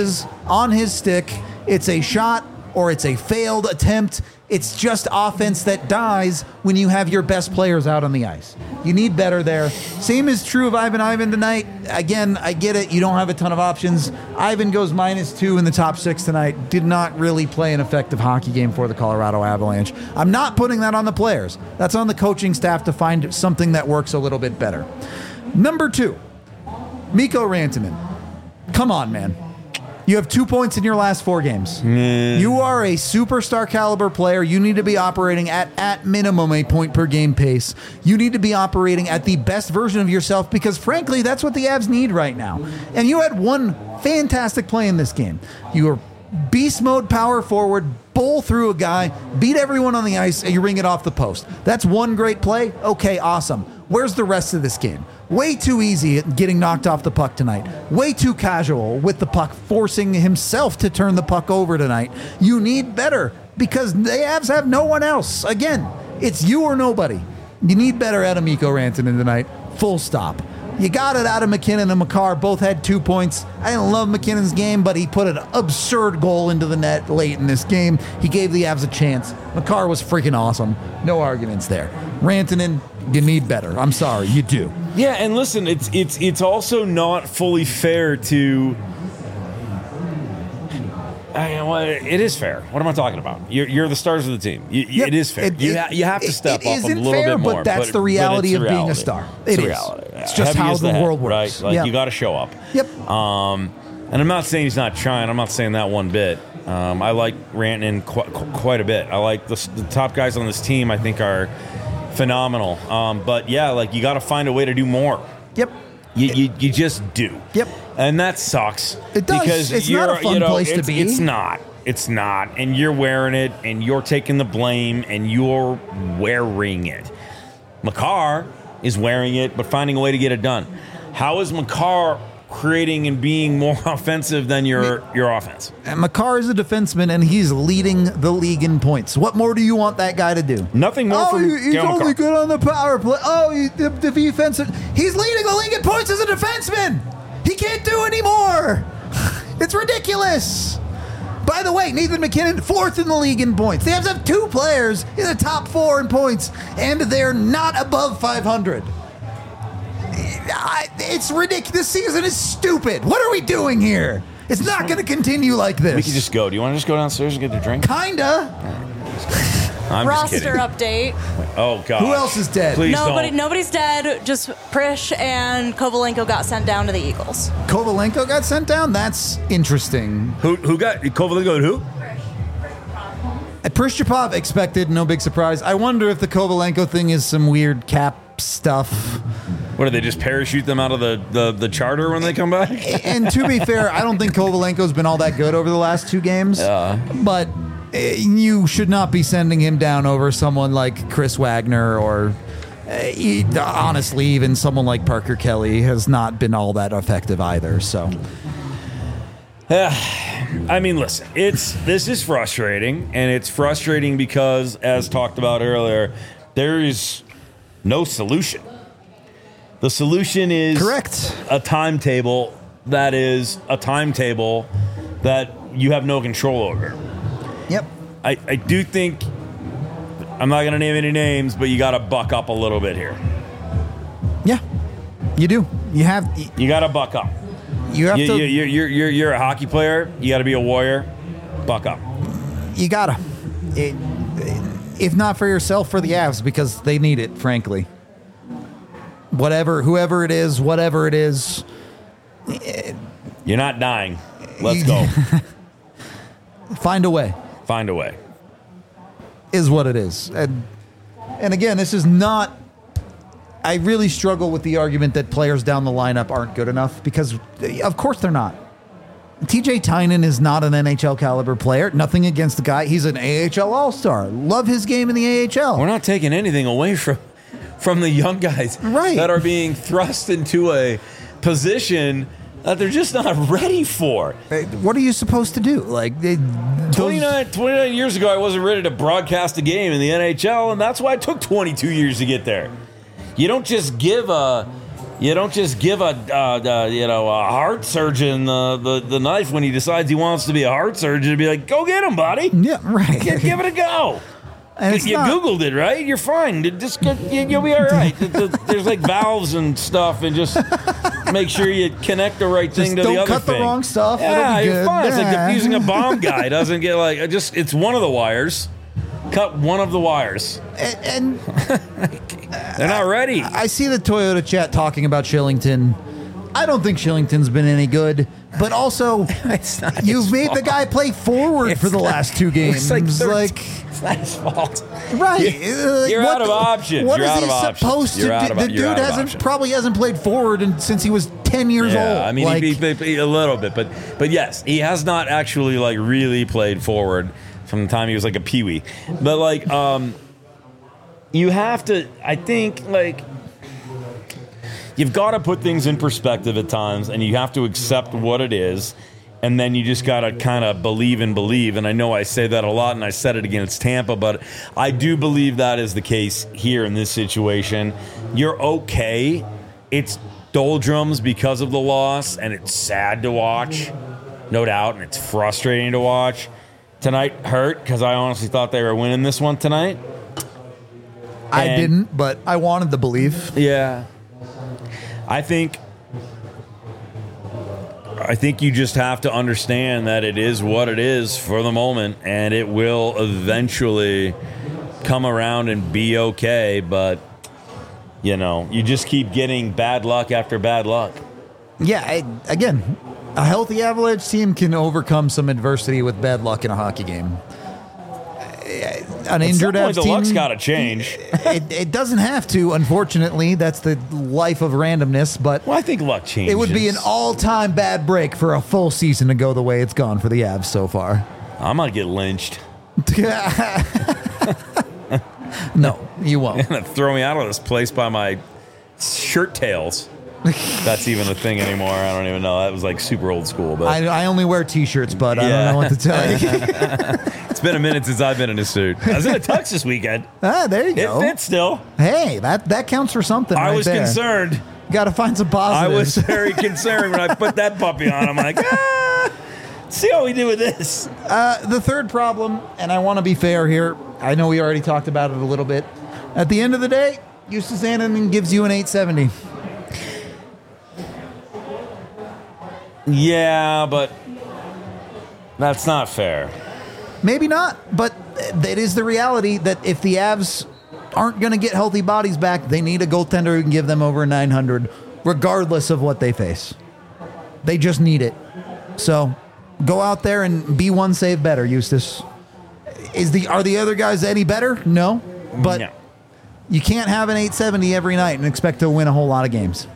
on his stick. It's a shot or it's a failed attempt. It's just offense that dies when you have your best players out on the ice. You need better there. Same is true of Ivan Ivan tonight. Again, I get it. You don't have a ton of options. Ivan goes minus two in the top six tonight. Did not really play an effective hockey game for the Colorado Avalanche. I'm not putting that on the players. That's on the coaching staff to find something that works a little bit better. Number two, Mikko Rantanen. Come on, man. You have two points in your last four games. Mm. You are a superstar caliber player. You need to be operating at, at minimum, a point per game pace. You need to be operating at the best version of yourself because, frankly, that's what the Avs need right now. And you had one fantastic play in this game. You were beast mode power forward, bowl through a guy, beat everyone on the ice, and you ring it off the post. That's one great play. Okay, awesome. Where's the rest of this game? Way too easy at getting knocked off the puck tonight. Way too casual with the puck, forcing himself to turn the puck over tonight. You need better because the Avs have no one else. Again, it's you or nobody. You need better out of Mikko Rantanen tonight. Full stop. You got it out of McKinnon and Makar. Both had two points. I didn't love McKinnon's game, but he put an absurd goal into the net late in this game. He gave the Avs a chance. Makar was freaking awesome. No arguments there. Rantanen, you need better. I'm sorry, you do. Yeah, and listen, it's it's it's also not fully fair to. I, well, it is fair. What am I talking about? You're, you're the stars of the team. You, Yep. It is fair. It- you, it- ha- you have to step it up a isn't little fair, bit more. but that's the reality but of it's being a reality. star. It's It a is. reality. It's just Heavy how as the head, world works. Right? Like Yep. you got to show up. Yep. Um, and I'm not saying he's not trying. I'm not saying that one bit. Um, I like Rantanen qu- qu- quite a bit. I like the, the top guys on this team. I think are phenomenal. Um, but yeah, like you got to find a way to do more. Yep. You, you, you just do. Yep. And that sucks. It does. Because It's you're, not a fun you know, place to it's, be. It's not. It's not. And you're wearing it, and you're taking the blame, and you're wearing it. Makar is wearing it, but finding a way to get it done. How is Makar creating and being more offensive than your, your offense? And Makar is a defenseman, and he's leading the league in points. What more do you want that guy to do? Nothing more Oh, from he- he's Cale only Makar. good on the power play. Oh, he, the, the defense. He's leading the league in points as a defenseman. He can't do anymore. It's ridiculous. By the way, Nathan McKinnon, fourth in the league in points. They have to have two players in the top four in points, and they're not above five hundred. I- It's ridiculous. This season is stupid. What are we doing here? It's not going to continue like this. We could just go. Do you want to just go downstairs and get a drink? Kinda. I'm just Roster kidding. update. Oh, God. Who else is dead? Please Nobody, don't. nobody's dead. Just Prish and Kovalenko got sent down to the Eagles. Kovalenko got sent down? That's interesting. Who, who got Kovalenko and who? Prishchapov expected, no big surprise. I wonder if the Kovalenko thing is some weird cap stuff. What, do they just parachute them out of the, the, the charter when they come back? And to be fair, I don't think Kovalenko's been all that good over the last two games. Yeah. But eh, you should not be sending him down over someone like Chris Wagner or, uh, e- honestly, even someone like Parker Kelly has not been all that effective either. So, I mean, listen, it's this is frustrating, and it's frustrating because, as talked about earlier, there is no solution. The solution is correct. a timetable that is a timetable that you have no control over. Yep. I, I do think, I'm not going to name any names, but you got to buck up a little bit here. Yeah. You do. You have. You got to buck up. You have You, to. you, you're, you're, you're, you're a hockey player. You got to be a warrior. Buck up. You gotta. It, if not for yourself, for the Avs, because they need it, frankly. Whatever, whoever it is, whatever it is. You're not dying. Let's go. Find a way, Find a way. is what it is. And, and again, this is not. I really struggle with the argument that players down the lineup aren't good enough because, of course, they're not. T J Tynan is not an N H L caliber player. Nothing against the guy. He's an A H L All-Star. Love his game in the A H L. We're not taking anything away from from the young guys Right. that are being thrust into a position that they're just not ready for. What are you supposed to do? Like, they, those- twenty-nine, twenty-nine years ago, I wasn't ready to broadcast a game in the N H L, and that's why it took twenty-two years to get there. You don't just give a, You don't just give a uh, uh, you know a heart surgeon the, the, the knife when he decides he wants to be a heart surgeon and be like, go get him, buddy. Yeah, right. Give, give it a go. And it's you not- Googled it, right? You're fine. Just get, you, you'll be all right. There's like valves and stuff, and just make sure you connect the right thing Just to don't the other cut the thing. wrong stuff. It'll Yeah, be you're good. fine. It's like Yeah. diffusing a bomb guy. Doesn't get like it just. It's one of the wires. Cut one of the wires. And, and They're not ready. I see the Toyota chat talking about Shillington. I don't think Shillington's been any good, but also It's not you've his made the fault. guy play forward It's for the not- last two games. It's like, like thirteen. It's not his fault. right, You're- uh, you're what out of the- options. What You're is out he of options. supposed You're to out do? of- The you're dude out of hasn't options. probably hasn't played forward in, since he was ten years old. Yeah, I mean, like, he, he, he- a little bit, but but yes, he has not actually like really played forward from the time he was like a peewee. But like, um, you have to. I think like you've got to put things in perspective at times, and you have to accept what it is. And then you just got to kind of believe and believe. And I know I say that a lot, and I said it against Tampa, but I do believe that is the case here in this situation. You're okay. It's doldrums because of the loss, and it's sad to watch, no doubt, and it's frustrating to watch. Tonight hurt because I honestly thought they were winning this one tonight. I and- didn't, but I wanted to believe. Yeah. I think I think you just have to understand that it is what it is for the moment, and it will eventually come around and be okay, but you know, you just keep getting bad luck after bad luck. Yeah, I, again, a healthy Avalanche team can overcome some adversity with bad luck in a hockey game. An At injured some point, Avs the team, luck's got to change. it, it doesn't have to, unfortunately. That's the life of randomness, but Well, I think luck changes. it would be an all-time bad break for a full season to go the way it's gone for the Avs so far. I might get lynched. No, you won't. Gonna throw me out of this place by my shirt tails. That's even a thing anymore. I don't even know. That was like super old school, but I, I only wear T-shirts, but I Yeah. don't know what to tell you. it's been a minute since I've been in a suit. I was in a tux this weekend. ah, there you It go. fits still. Hey, that, that counts for something. I right was there. concerned. Got to find some I positives. was very concerned when I put that puppy on. I'm like, ah, see how we do with this. Uh, the third problem, and I want to be fair here. I know we already talked about it a little bit. At the end of the day, Justus Annunen gives you an eight seventy. Yeah, but that's not fair. Maybe not, but it is the reality that if the Avs aren't going to get healthy bodies back, they need a goaltender who can give them over nine hundred, regardless of what they face. They just need it. So go out there and be one save better, Eustace. Is the are the other guys any better? No, but No. you can't have an eight seventy every night and expect to win a whole lot of games.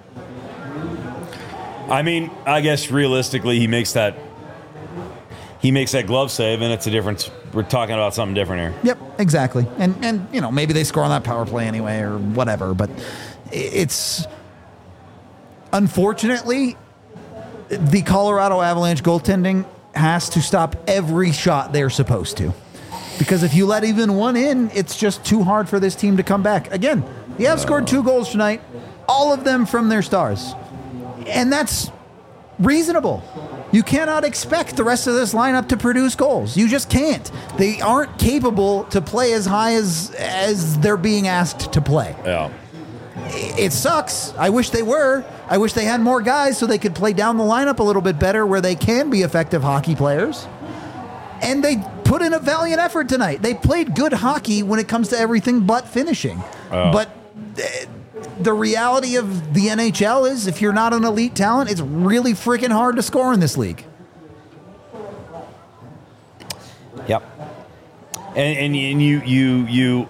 I mean, I guess realistically, he makes that he makes that glove save, and it's a difference. We're talking about something different here. Yep, exactly. And and you know, maybe they score on that power play anyway or whatever, but it's unfortunately the Colorado Avalanche goaltending has to stop every shot they're supposed to. Because if you let even one in, it's just too hard for this team to come back. Again, the Avs scored two goals tonight, all of them from their stars. And that's reasonable. You cannot expect the rest of this lineup to produce goals. You just can't. They aren't capable to play as high as as they're being asked to play. Yeah. It sucks. I wish they were. I wish they had more guys so they could play down the lineup a little bit better where they can be effective hockey players. And they put in a valiant effort tonight. They played good hockey when it comes to everything but finishing. Oh. But uh, the reality of the N H L is if you're not an elite talent, it's really freaking hard to score in this league. Yep. And and, and you you you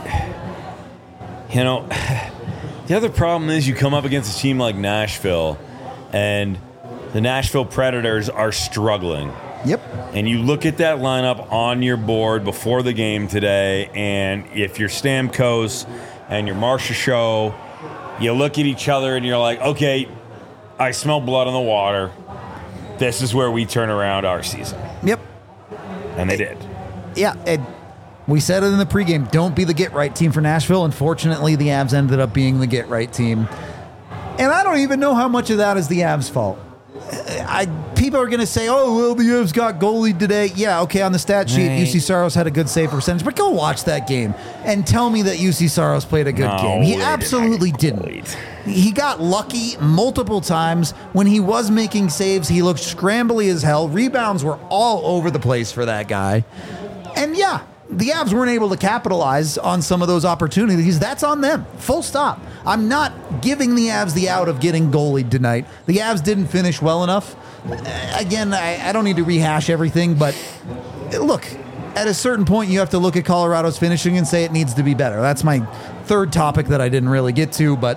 you know the other problem is you come up against a team like Nashville, and the Nashville Predators are struggling. Yep. And you look at that lineup on your board before the game today, and if you're Stamkos and you're Marcia Show, you look at each other and you're like, okay, I smell blood in the water. This is where we turn around our season. Yep. And they did. Yeah. It, we said it in the pregame. Don't be the get-right team for Nashville. Unfortunately, the Avs ended up being the get-right team. And I don't even know how much of that is the Avs' fault. I, people are going to say, oh, well, the Avs got goalied today. Yeah, okay, on the stat sheet, Right. U C Saros had a good save percentage, but go watch that game and tell me that U C Saros played a good No, game. He they absolutely didn't. didn't. He got lucky multiple times. When he was making saves, he looked scrambly as hell. Rebounds were all over the place for that guy. And yeah, the Avs weren't able to capitalize on some of those opportunities. That's on them. Full stop. I'm not giving the Avs the out of getting goalied tonight. The Avs didn't finish well enough. Again, I, I don't need to rehash everything, but look, at a certain point, you have to look at Colorado's finishing and say it needs to be better. That's my third topic that I didn't really get to, but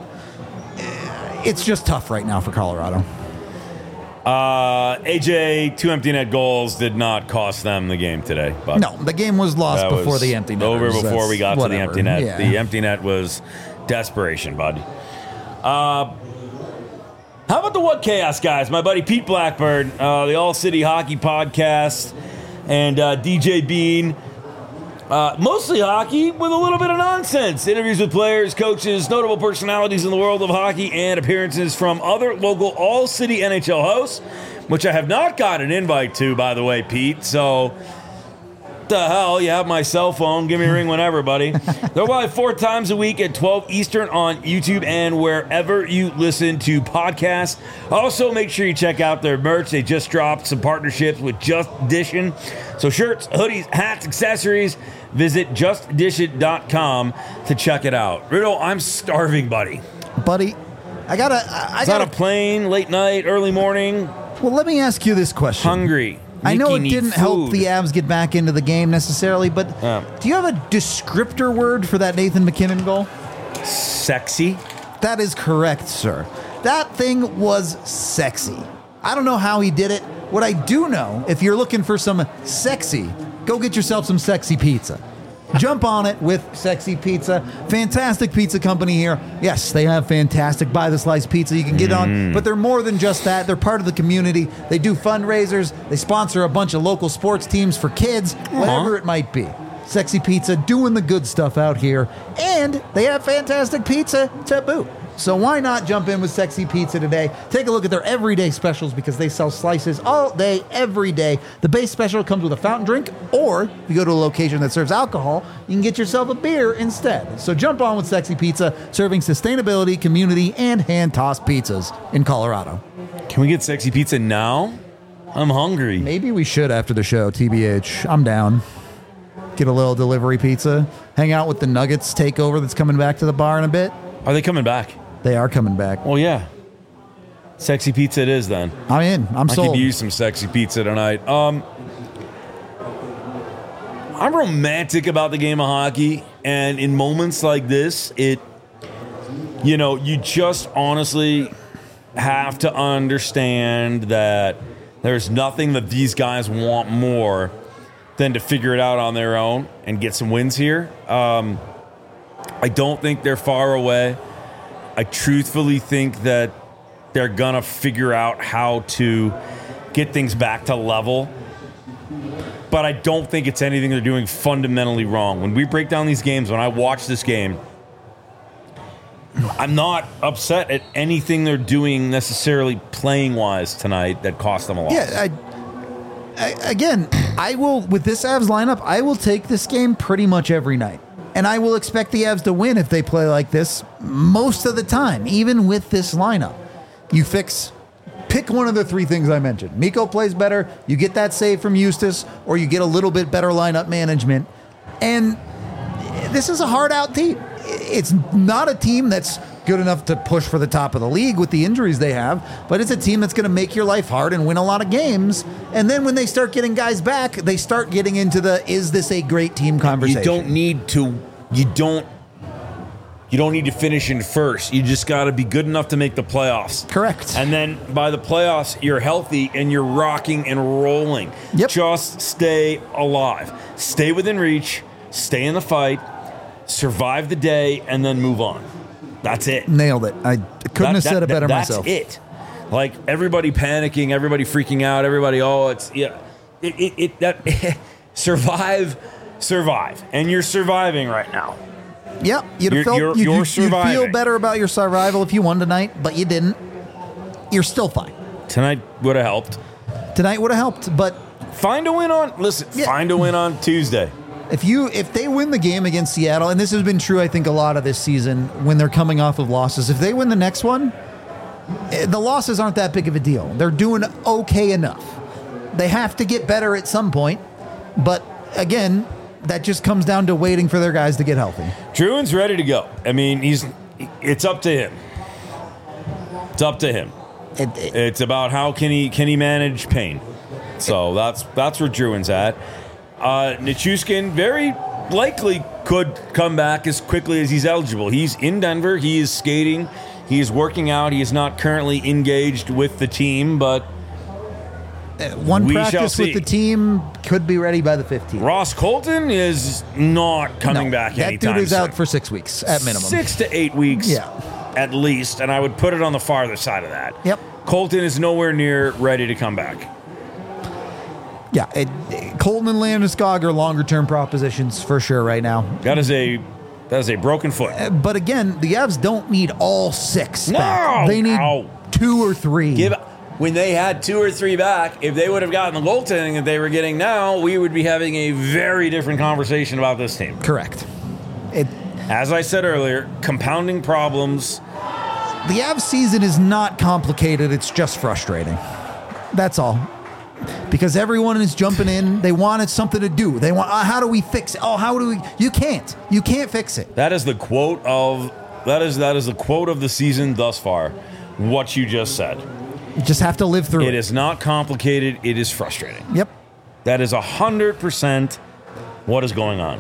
it's just tough right now for Colorado. Uh, A J, two empty net goals did not cost them the game today. But No, the game was lost that before was the empty net. over before we got whatever. to the empty net. Yeah. The empty net was desperation, bud. Uh, how about the What Chaos guys? My buddy Pete Blackbird, uh, the All City Hockey Podcast, and uh, D J Bean. Uh, mostly hockey with a little bit of nonsense. Interviews with players, coaches, notable personalities in the world of hockey, and appearances from other local all-city N H L hosts, which I have not got an invite to, by the way, Pete. So, what the hell? You have my cell phone. Give me a ring whenever, buddy. They're live four times a week at twelve Eastern on YouTube and wherever you listen to podcasts. Also, make sure you check out their merch. They just dropped some partnerships with Just Dishin'. So shirts, hoodies, hats, accessories. Visit just dish it dot com to check it out. Riddle, I'm starving, buddy. Buddy, I gotta. I, I It's on gotta. a plane, late night, early morning, Well, let me ask you this question. hungry. I know Nicky it need didn't help food. the Avs get back into the game necessarily, but Yeah. do you have a descriptor word for that Nathan McKinnon goal? Sexy. That is correct, sir. That thing was sexy. I don't know how he did it. What I do know, if you're looking for some sexy, go get yourself some sexy pizza. Jump on it with Sexy Pizza. Fantastic pizza company here. Yes, they have fantastic buy the slice pizza you can get on, but they're more than just that. They're part of the community. They do fundraisers. They sponsor a bunch of local sports teams for kids, whatever it might be. Sexy Pizza doing the good stuff out here, and they have fantastic pizza to boot. So why not jump in with Sexy Pizza today? Take a look at their everyday specials because they sell slices all day, every day. The base special comes with a fountain drink, or if you go to a location that serves alcohol, you can get yourself a beer instead. So jump on with Sexy Pizza, serving sustainability, community, and hand-tossed pizzas in Colorado. Can we get sexy pizza now? I'm hungry. Maybe we should after the show, T B H. I'm down. Get a little delivery pizza. Hang out with the Nuggets takeover that's coming back to the bar in a bit. Are they coming back? They are coming back. Well, yeah. Sexy pizza it is then. I'm in. I'm I sold. could use some sexy pizza tonight. Um, I'm romantic about the game of hockey, and in moments like this, it, you know, you just honestly have to understand that there's nothing that these guys want more than to figure it out on their own and get some wins here. Um, I don't think they're far away. I truthfully think that they're going to figure out how to get things back to level. But I don't think it's anything they're doing fundamentally wrong. When we break down these games, when I watch this game, I'm not upset at anything they're doing necessarily playing-wise tonight that cost them a loss. Yeah, I, I, again, I will, with this Avs lineup, I will take this game pretty much every night. And I will expect the Avs to win if they play like this most of the time, even with this lineup. You fix, pick one of the three things I mentioned. Mikko plays better, you get that save from Eustace, or you get a little bit better lineup management. And this is a hard-out team. It's not a team that's good enough to push for the top of the league with the injuries they have, but it's a team that's going to make your life hard and win a lot of games. And then when they start getting guys back, they start getting into the, is this a great team conversation? You don't need to, you don't, you don't need to finish in first. You just got to be good enough to make the playoffs. Correct. And then by the playoffs, you're healthy and you're rocking and rolling. Yep. Just stay alive. Stay within reach. Stay in the fight. Survive the day and then move on. That's it. Nailed it. I couldn't That- have said that- it better that's myself. That's it. Like everybody panicking, everybody freaking out, everybody, oh, it's, yeah. It, it, it that survive, survive. And you're surviving right now. Yep, you'd You're- have felt you're- you'd, you're you'd- you'd feel surviving. better about your survival if you won tonight, but you didn't. You're still fine. Tonight would have helped. Tonight would have helped, but Find a win on. Listen, Yeah. find a win on Tuesday. if you if they win the game against Seattle, and this has been true, I think a lot of this season when they're coming off of losses, if they win the next one, eh, the losses aren't that big of a deal. They're doing okay enough. They have to get better at some point, but again, that just comes down to waiting for their guys to get healthy. Druin's ready to go. I mean, he's. It's up to him. It's up to him. It, it, It's about how can he can he manage pain. So that's that's where Druin's at. Uh, Nichushkin very likely could come back as quickly as he's eligible. He's in Denver. He is skating. He is working out. He is not currently engaged with the team, but one we shall practice see. with the team could be ready by the fifteenth. Ross Colton is not coming No, back that anytime dude is soon. out for six weeks at minimum. Six to eight weeks Yeah. at least, and I would put it on the farther side of that. Yep. Colton is nowhere near ready to come back. Yeah, it, it- Colton and Landeskog are longer term propositions for sure right now. That is a that is a broken foot. Uh, But again, the Avs don't need all six No, back. They need no. two or three. Give when they had two or three back, if they would have gotten the goaltending that they were getting now, we would be having a very different conversation about this team. Correct. It, As I said earlier, compounding problems. the Avs season is not complicated. It's just frustrating. That's all. Because everyone is jumping in. They wanted something to do. They want, uh, how do we fix it? Oh, how do we? You can't. You can't fix it. That is the quote of that is that is the quote of the season thus far. What you just said. You just have to live through It it. is not complicated. It is frustrating. Yep. That is a hundred percent what is going on.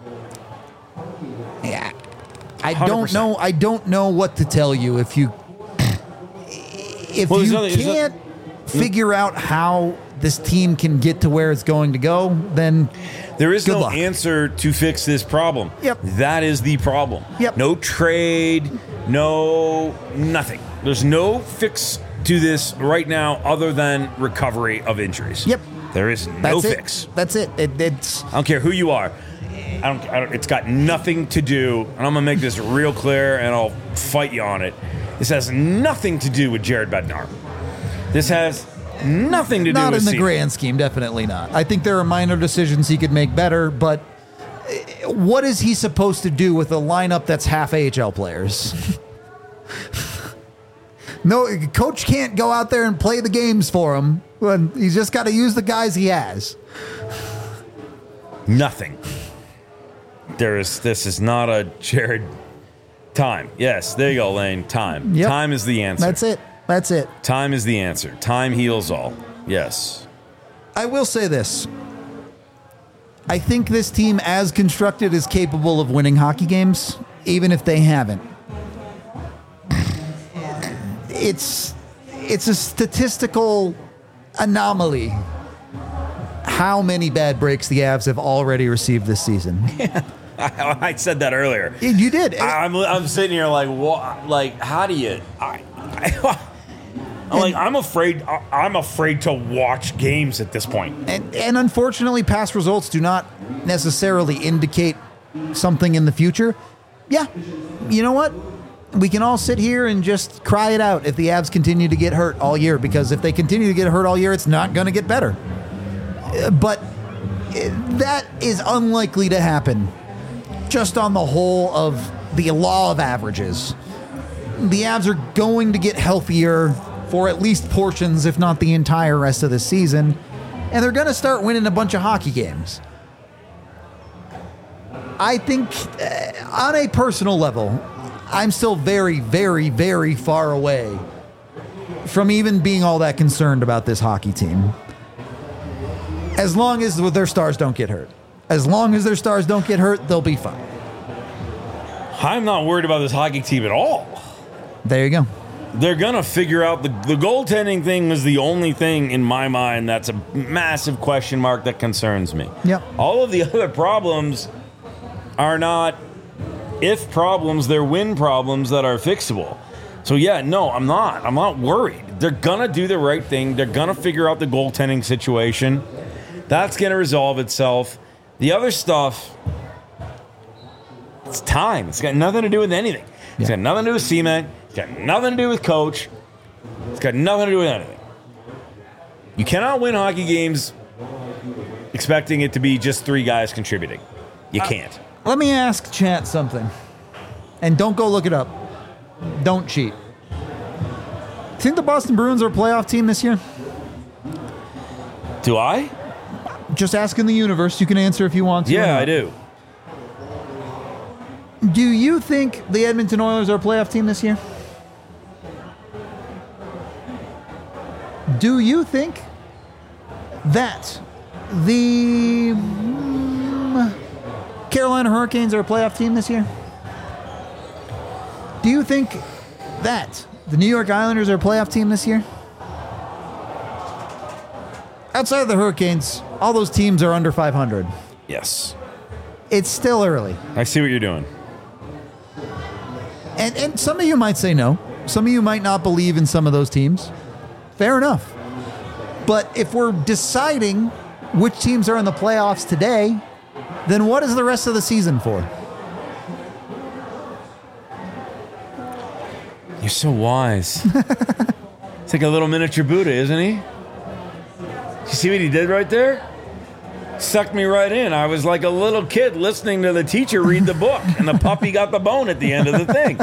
Yeah. I one hundred don't percent. know. I don't know what to tell you if you if Well, there's you nothing- there's no- can't figure out how this team can get to where it's going to go, then There is Good no luck. answer to fix this problem. Yep. That is the problem. Yep. No trade, no nothing. There's no fix to this right now other than recovery of injuries. Yep. There is no that's it. fix. That's it. it. It's I don't care who you are. I don't, I don't. It's got nothing to do, and I'm gonna make this real clear, and I'll fight you on it. This has nothing to do with Jared Bednar. This has nothing to do not with in the Seaman. grand scheme. Definitely not. I think there are minor decisions he could make better, but uh, what is he supposed to do with a lineup that's half A H L players? No, coach can't go out there and play the games for him. When he's just got to use the guys he has. Nothing. There is. This is not a Jared. Time. Yes, there you go, Lane. Time. Yep. Time is the answer. That's it. That's it. Time is the answer. Time heals all. Yes. I will say this. I think this team, as constructed, is capable of winning hockey games, even if they haven't. It's it's a statistical anomaly how many bad breaks the Avs have already received this season. I, I said that earlier. You did. I, I'm, I'm sitting here like, what? Like, how do you? I, I, I'm like, I'm afraid. I, I'm afraid to watch games at this point. And, and unfortunately, past results do not necessarily indicate something in the future. Yeah, you know what? We can all sit here and just cry it out if the Avs continue to get hurt all year, because if they continue to get hurt all year, it's not going to get better. Uh, But uh, that is unlikely to happen just on the whole of the law of averages. The Avs are going to get healthier for at least portions, if not the entire rest of the season, and they're going to start winning a bunch of hockey games. I think uh, on a personal level, I'm still very, very, very far away from even being all that concerned about this hockey team. As long as their stars don't get hurt. As long as their stars don't get hurt, they'll be fine. I'm not worried about this hockey team at all. There you go. They're gonna figure out the the goaltending thing was the only thing in my mind that's a massive question mark that concerns me. Yep. All of the other problems are not if problems, they're win problems that are fixable. So yeah, no, I'm not. I'm not worried. They're gonna do the right thing. They're gonna figure out the goaltending situation. That's gonna resolve itself. The other stuff, It's time. It's got nothing to do with anything. It's Yeah. got nothing to do with cement. It's got nothing to do with coach. It's got nothing to do with anything. You cannot win hockey games expecting it to be just three guys contributing. You can't. Let me ask chat something. And don't go look it up. Don't cheat. Think the Boston Bruins are a playoff team this year? Do I? Just ask in the universe. You can answer if you want to. or Yeah, not. I do. Do you think the Edmonton Oilers are a playoff team this year? Do you think that the mm, Carolina Hurricanes are a playoff team this year? Do you think that the New York Islanders are a playoff team this year? Outside of the Hurricanes, all those teams are under five hundred. Yes. It's still early. I see what you're doing. And, and some of you might say no. Some of you might not believe in some of those teams. Fair enough. But if we're deciding which teams are in the playoffs today, then what is the rest of the season for? You're so wise. It's like a little miniature Buddha, isn't he? You see what he did right there? Sucked me right in. I was like a little kid listening to the teacher read the book, and the puppy got the bone at the end of the thing.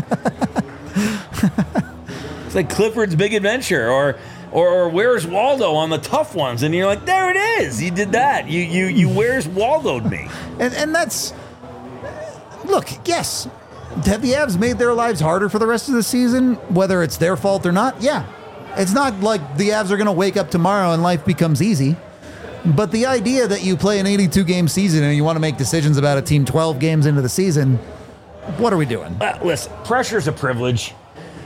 It's like Clifford's Big Adventure, or, or or Where's Waldo on the tough ones, and you're like, there it is. You did that. You you you Where's Waldo'd me. And, and that's... Look, yes. Have the Avs made their lives harder for the rest of the season, whether it's their fault or not? Yeah. It's not like the Avs are going to wake up tomorrow and life becomes easy. But the idea that you play an eighty-two game season and you want to make decisions about a team twelve games into the season, what are we doing? Uh, listen, pressure's a privilege.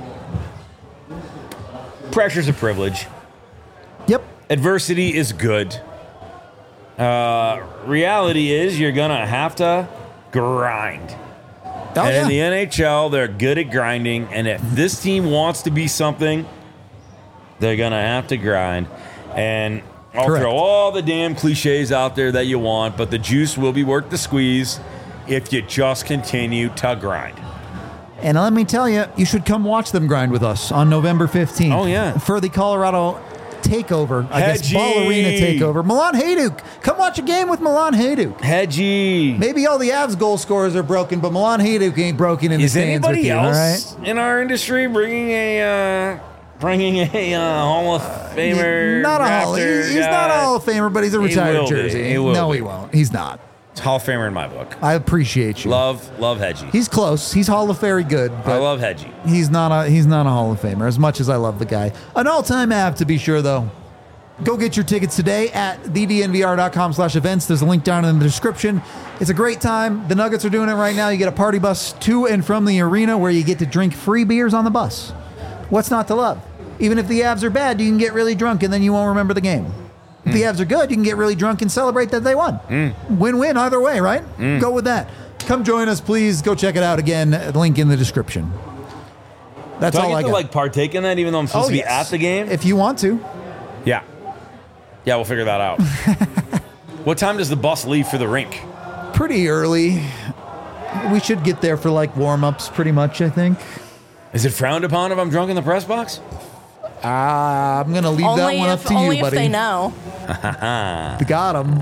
Pressure's a privilege. Yep. Adversity is good. Uh, reality is you're going to have to grind. Oh, and yeah. in the N H L, they're good at grinding. And if this team wants to be something, they're going to have to grind. And I'll Correct. throw all the damn cliches out there that you want, but the juice will be worth the squeeze if you just continue to grind. And let me tell you, you should come watch them grind with us on November fifteenth. Oh, yeah. For the Colorado takeover, I guess, Hedgie. Ball Arena takeover. Milan Hajduk. Come watch a game with Milan Hajduk. Hedgie. Maybe all the Avs goal scorers are broken, but Milan Hajduk ain't broken in the Is stands with anybody you, all else right? in our industry bringing a uh, bringing a uh, Hall of Famer? Not a Hall. Raptor He's, he's not a guy? Hall of Famer, but he's a He retired will be. jersey. He will no, be. he won't. He's not. It's Hall of Famer in my book. I appreciate you. Love, love Hedgie. He's close. He's Hall of Very good, I but love Hedgie. he's not a he's not a Hall of Famer. As much as I love the guy, an all-time Av to be sure, though. Go get your tickets today at the d n v r dot com slash events. There's a link down in the description. It's a great time. The Nuggets are doing it right now. You get a party bus to and from the arena where you get to drink free beers on the bus. What's not to love? Even if the Avs are bad, you can get really drunk and then you won't remember the game. If the Avs are good, you can get really drunk and celebrate that they won. Win-win either way, right? Go with that. Come join us, please. Go check it out again. Link in the description. That's Do I all get I to got. like partake in that even though I'm supposed Oh, to be yes. at the game? If you want to. yeah. Yeah, we'll figure that out. What time does the bus leave for the rink? Pretty early. We should get there for like warm-ups pretty much, I think. Is it frowned upon if I'm drunk in the press box? Uh, I'm going to leave that Only one if up to only you, if buddy. they know. Got him.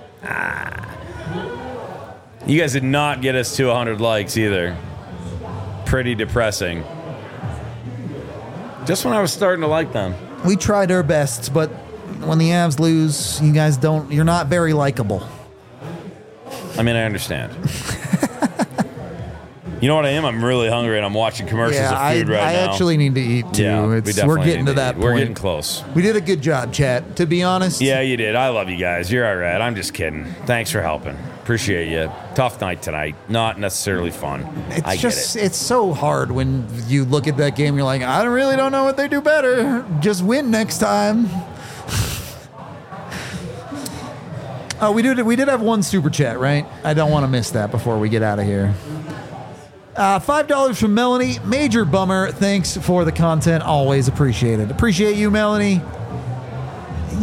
You guys did not get us to one hundred likes either. Pretty depressing. Just when I was starting to like them. We tried our best, but when the Avs lose, you guys don't, you're not very likable. I mean, I understand. You know what I am? I'm really hungry and I'm watching commercials Yeah, of I, food right I now. actually need to eat too. yeah, we it's, definitely we're getting need to that eat. point. We're getting close. We did a good job, chat. To be honest. Yeah, you did. I love you guys. You're all right. I'm just kidding. Thanks for helping. Appreciate you. Tough night tonight. Not necessarily fun. It's I just, get it. it's so hard when you look at that game. You're like, I really don't know what they do better. Just win next time. Oh, we did. We did have one super chat, right? I don't want to miss that before we get out of here. Uh, Five dollars from Melanie. Major bummer. Thanks for the content. Always appreciated. Appreciate you, Melanie. Yeah,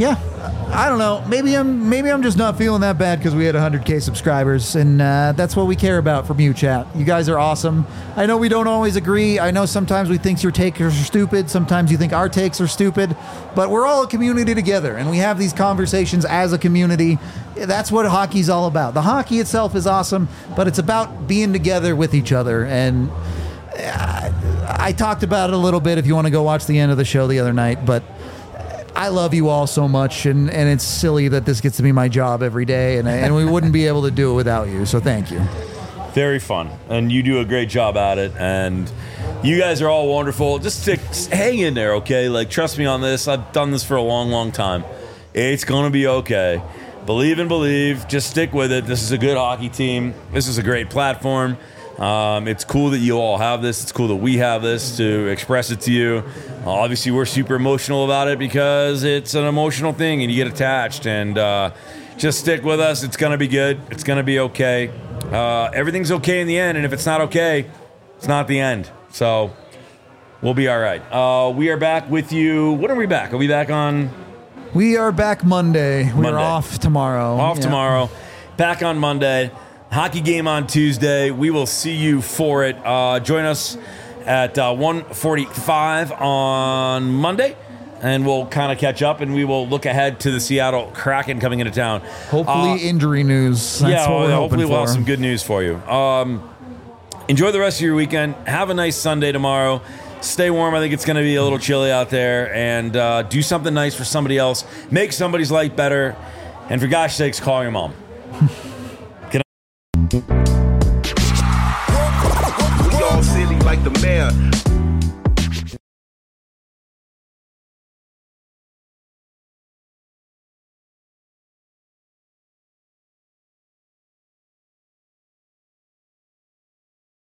I don't know. Maybe I'm maybe I'm just not feeling that bad because we had one hundred K subscribers, and uh, that's what we care about from you, chat. You guys are awesome. I know we don't always agree. I know sometimes we think your takes are stupid. Sometimes you think our takes are stupid. But we're all a community together, and we have these conversations as a community. That's what hockey's all about. The hockey itself is awesome, but it's about being together with each other. And I, I talked about it a little bit if you want to go watch the end of the show the other night, but I love you all so much, and, and it's silly that this gets to be my job every day, and, and we wouldn't be able to do it without you, so thank you. Very fun, and you do a great job at it, and you guys are all wonderful. Just stick, hang in there, okay? Like, trust me on this. I've done this for a long, long time. It's going to be okay. Believe and believe. Just stick with it. This is a good hockey team. This is a great platform. Um, it's cool that you all have this. It's cool that we have this to express it to you. Uh, obviously, we're super emotional about it because it's an emotional thing and you get attached. And uh, just stick with us. It's going to be good. It's going to be okay. Uh, everything's okay in the end. And if it's not okay, it's not the end. So we'll be all right. Uh, we are back with you. When are we back? Are we back on? We are back Monday. We're Monday. off tomorrow. Off Yeah. tomorrow. Back on Monday. Hockey game on Tuesday. We will see you for it. Uh, join us at uh, one forty-five on Monday, and we'll kind of catch up, and we will look ahead to the Seattle Kraken coming into town. Hopefully Uh, injury news. That's yeah, what we're well, hoping hopefully we'll have for. some good news for you. Um, enjoy the rest of your weekend. Have a nice Sunday tomorrow. Stay warm. I think it's going to be a little chilly out there, and uh, do something nice for somebody else. Make somebody's life better, and for gosh sakes, call your mom. We all silly like the mayor.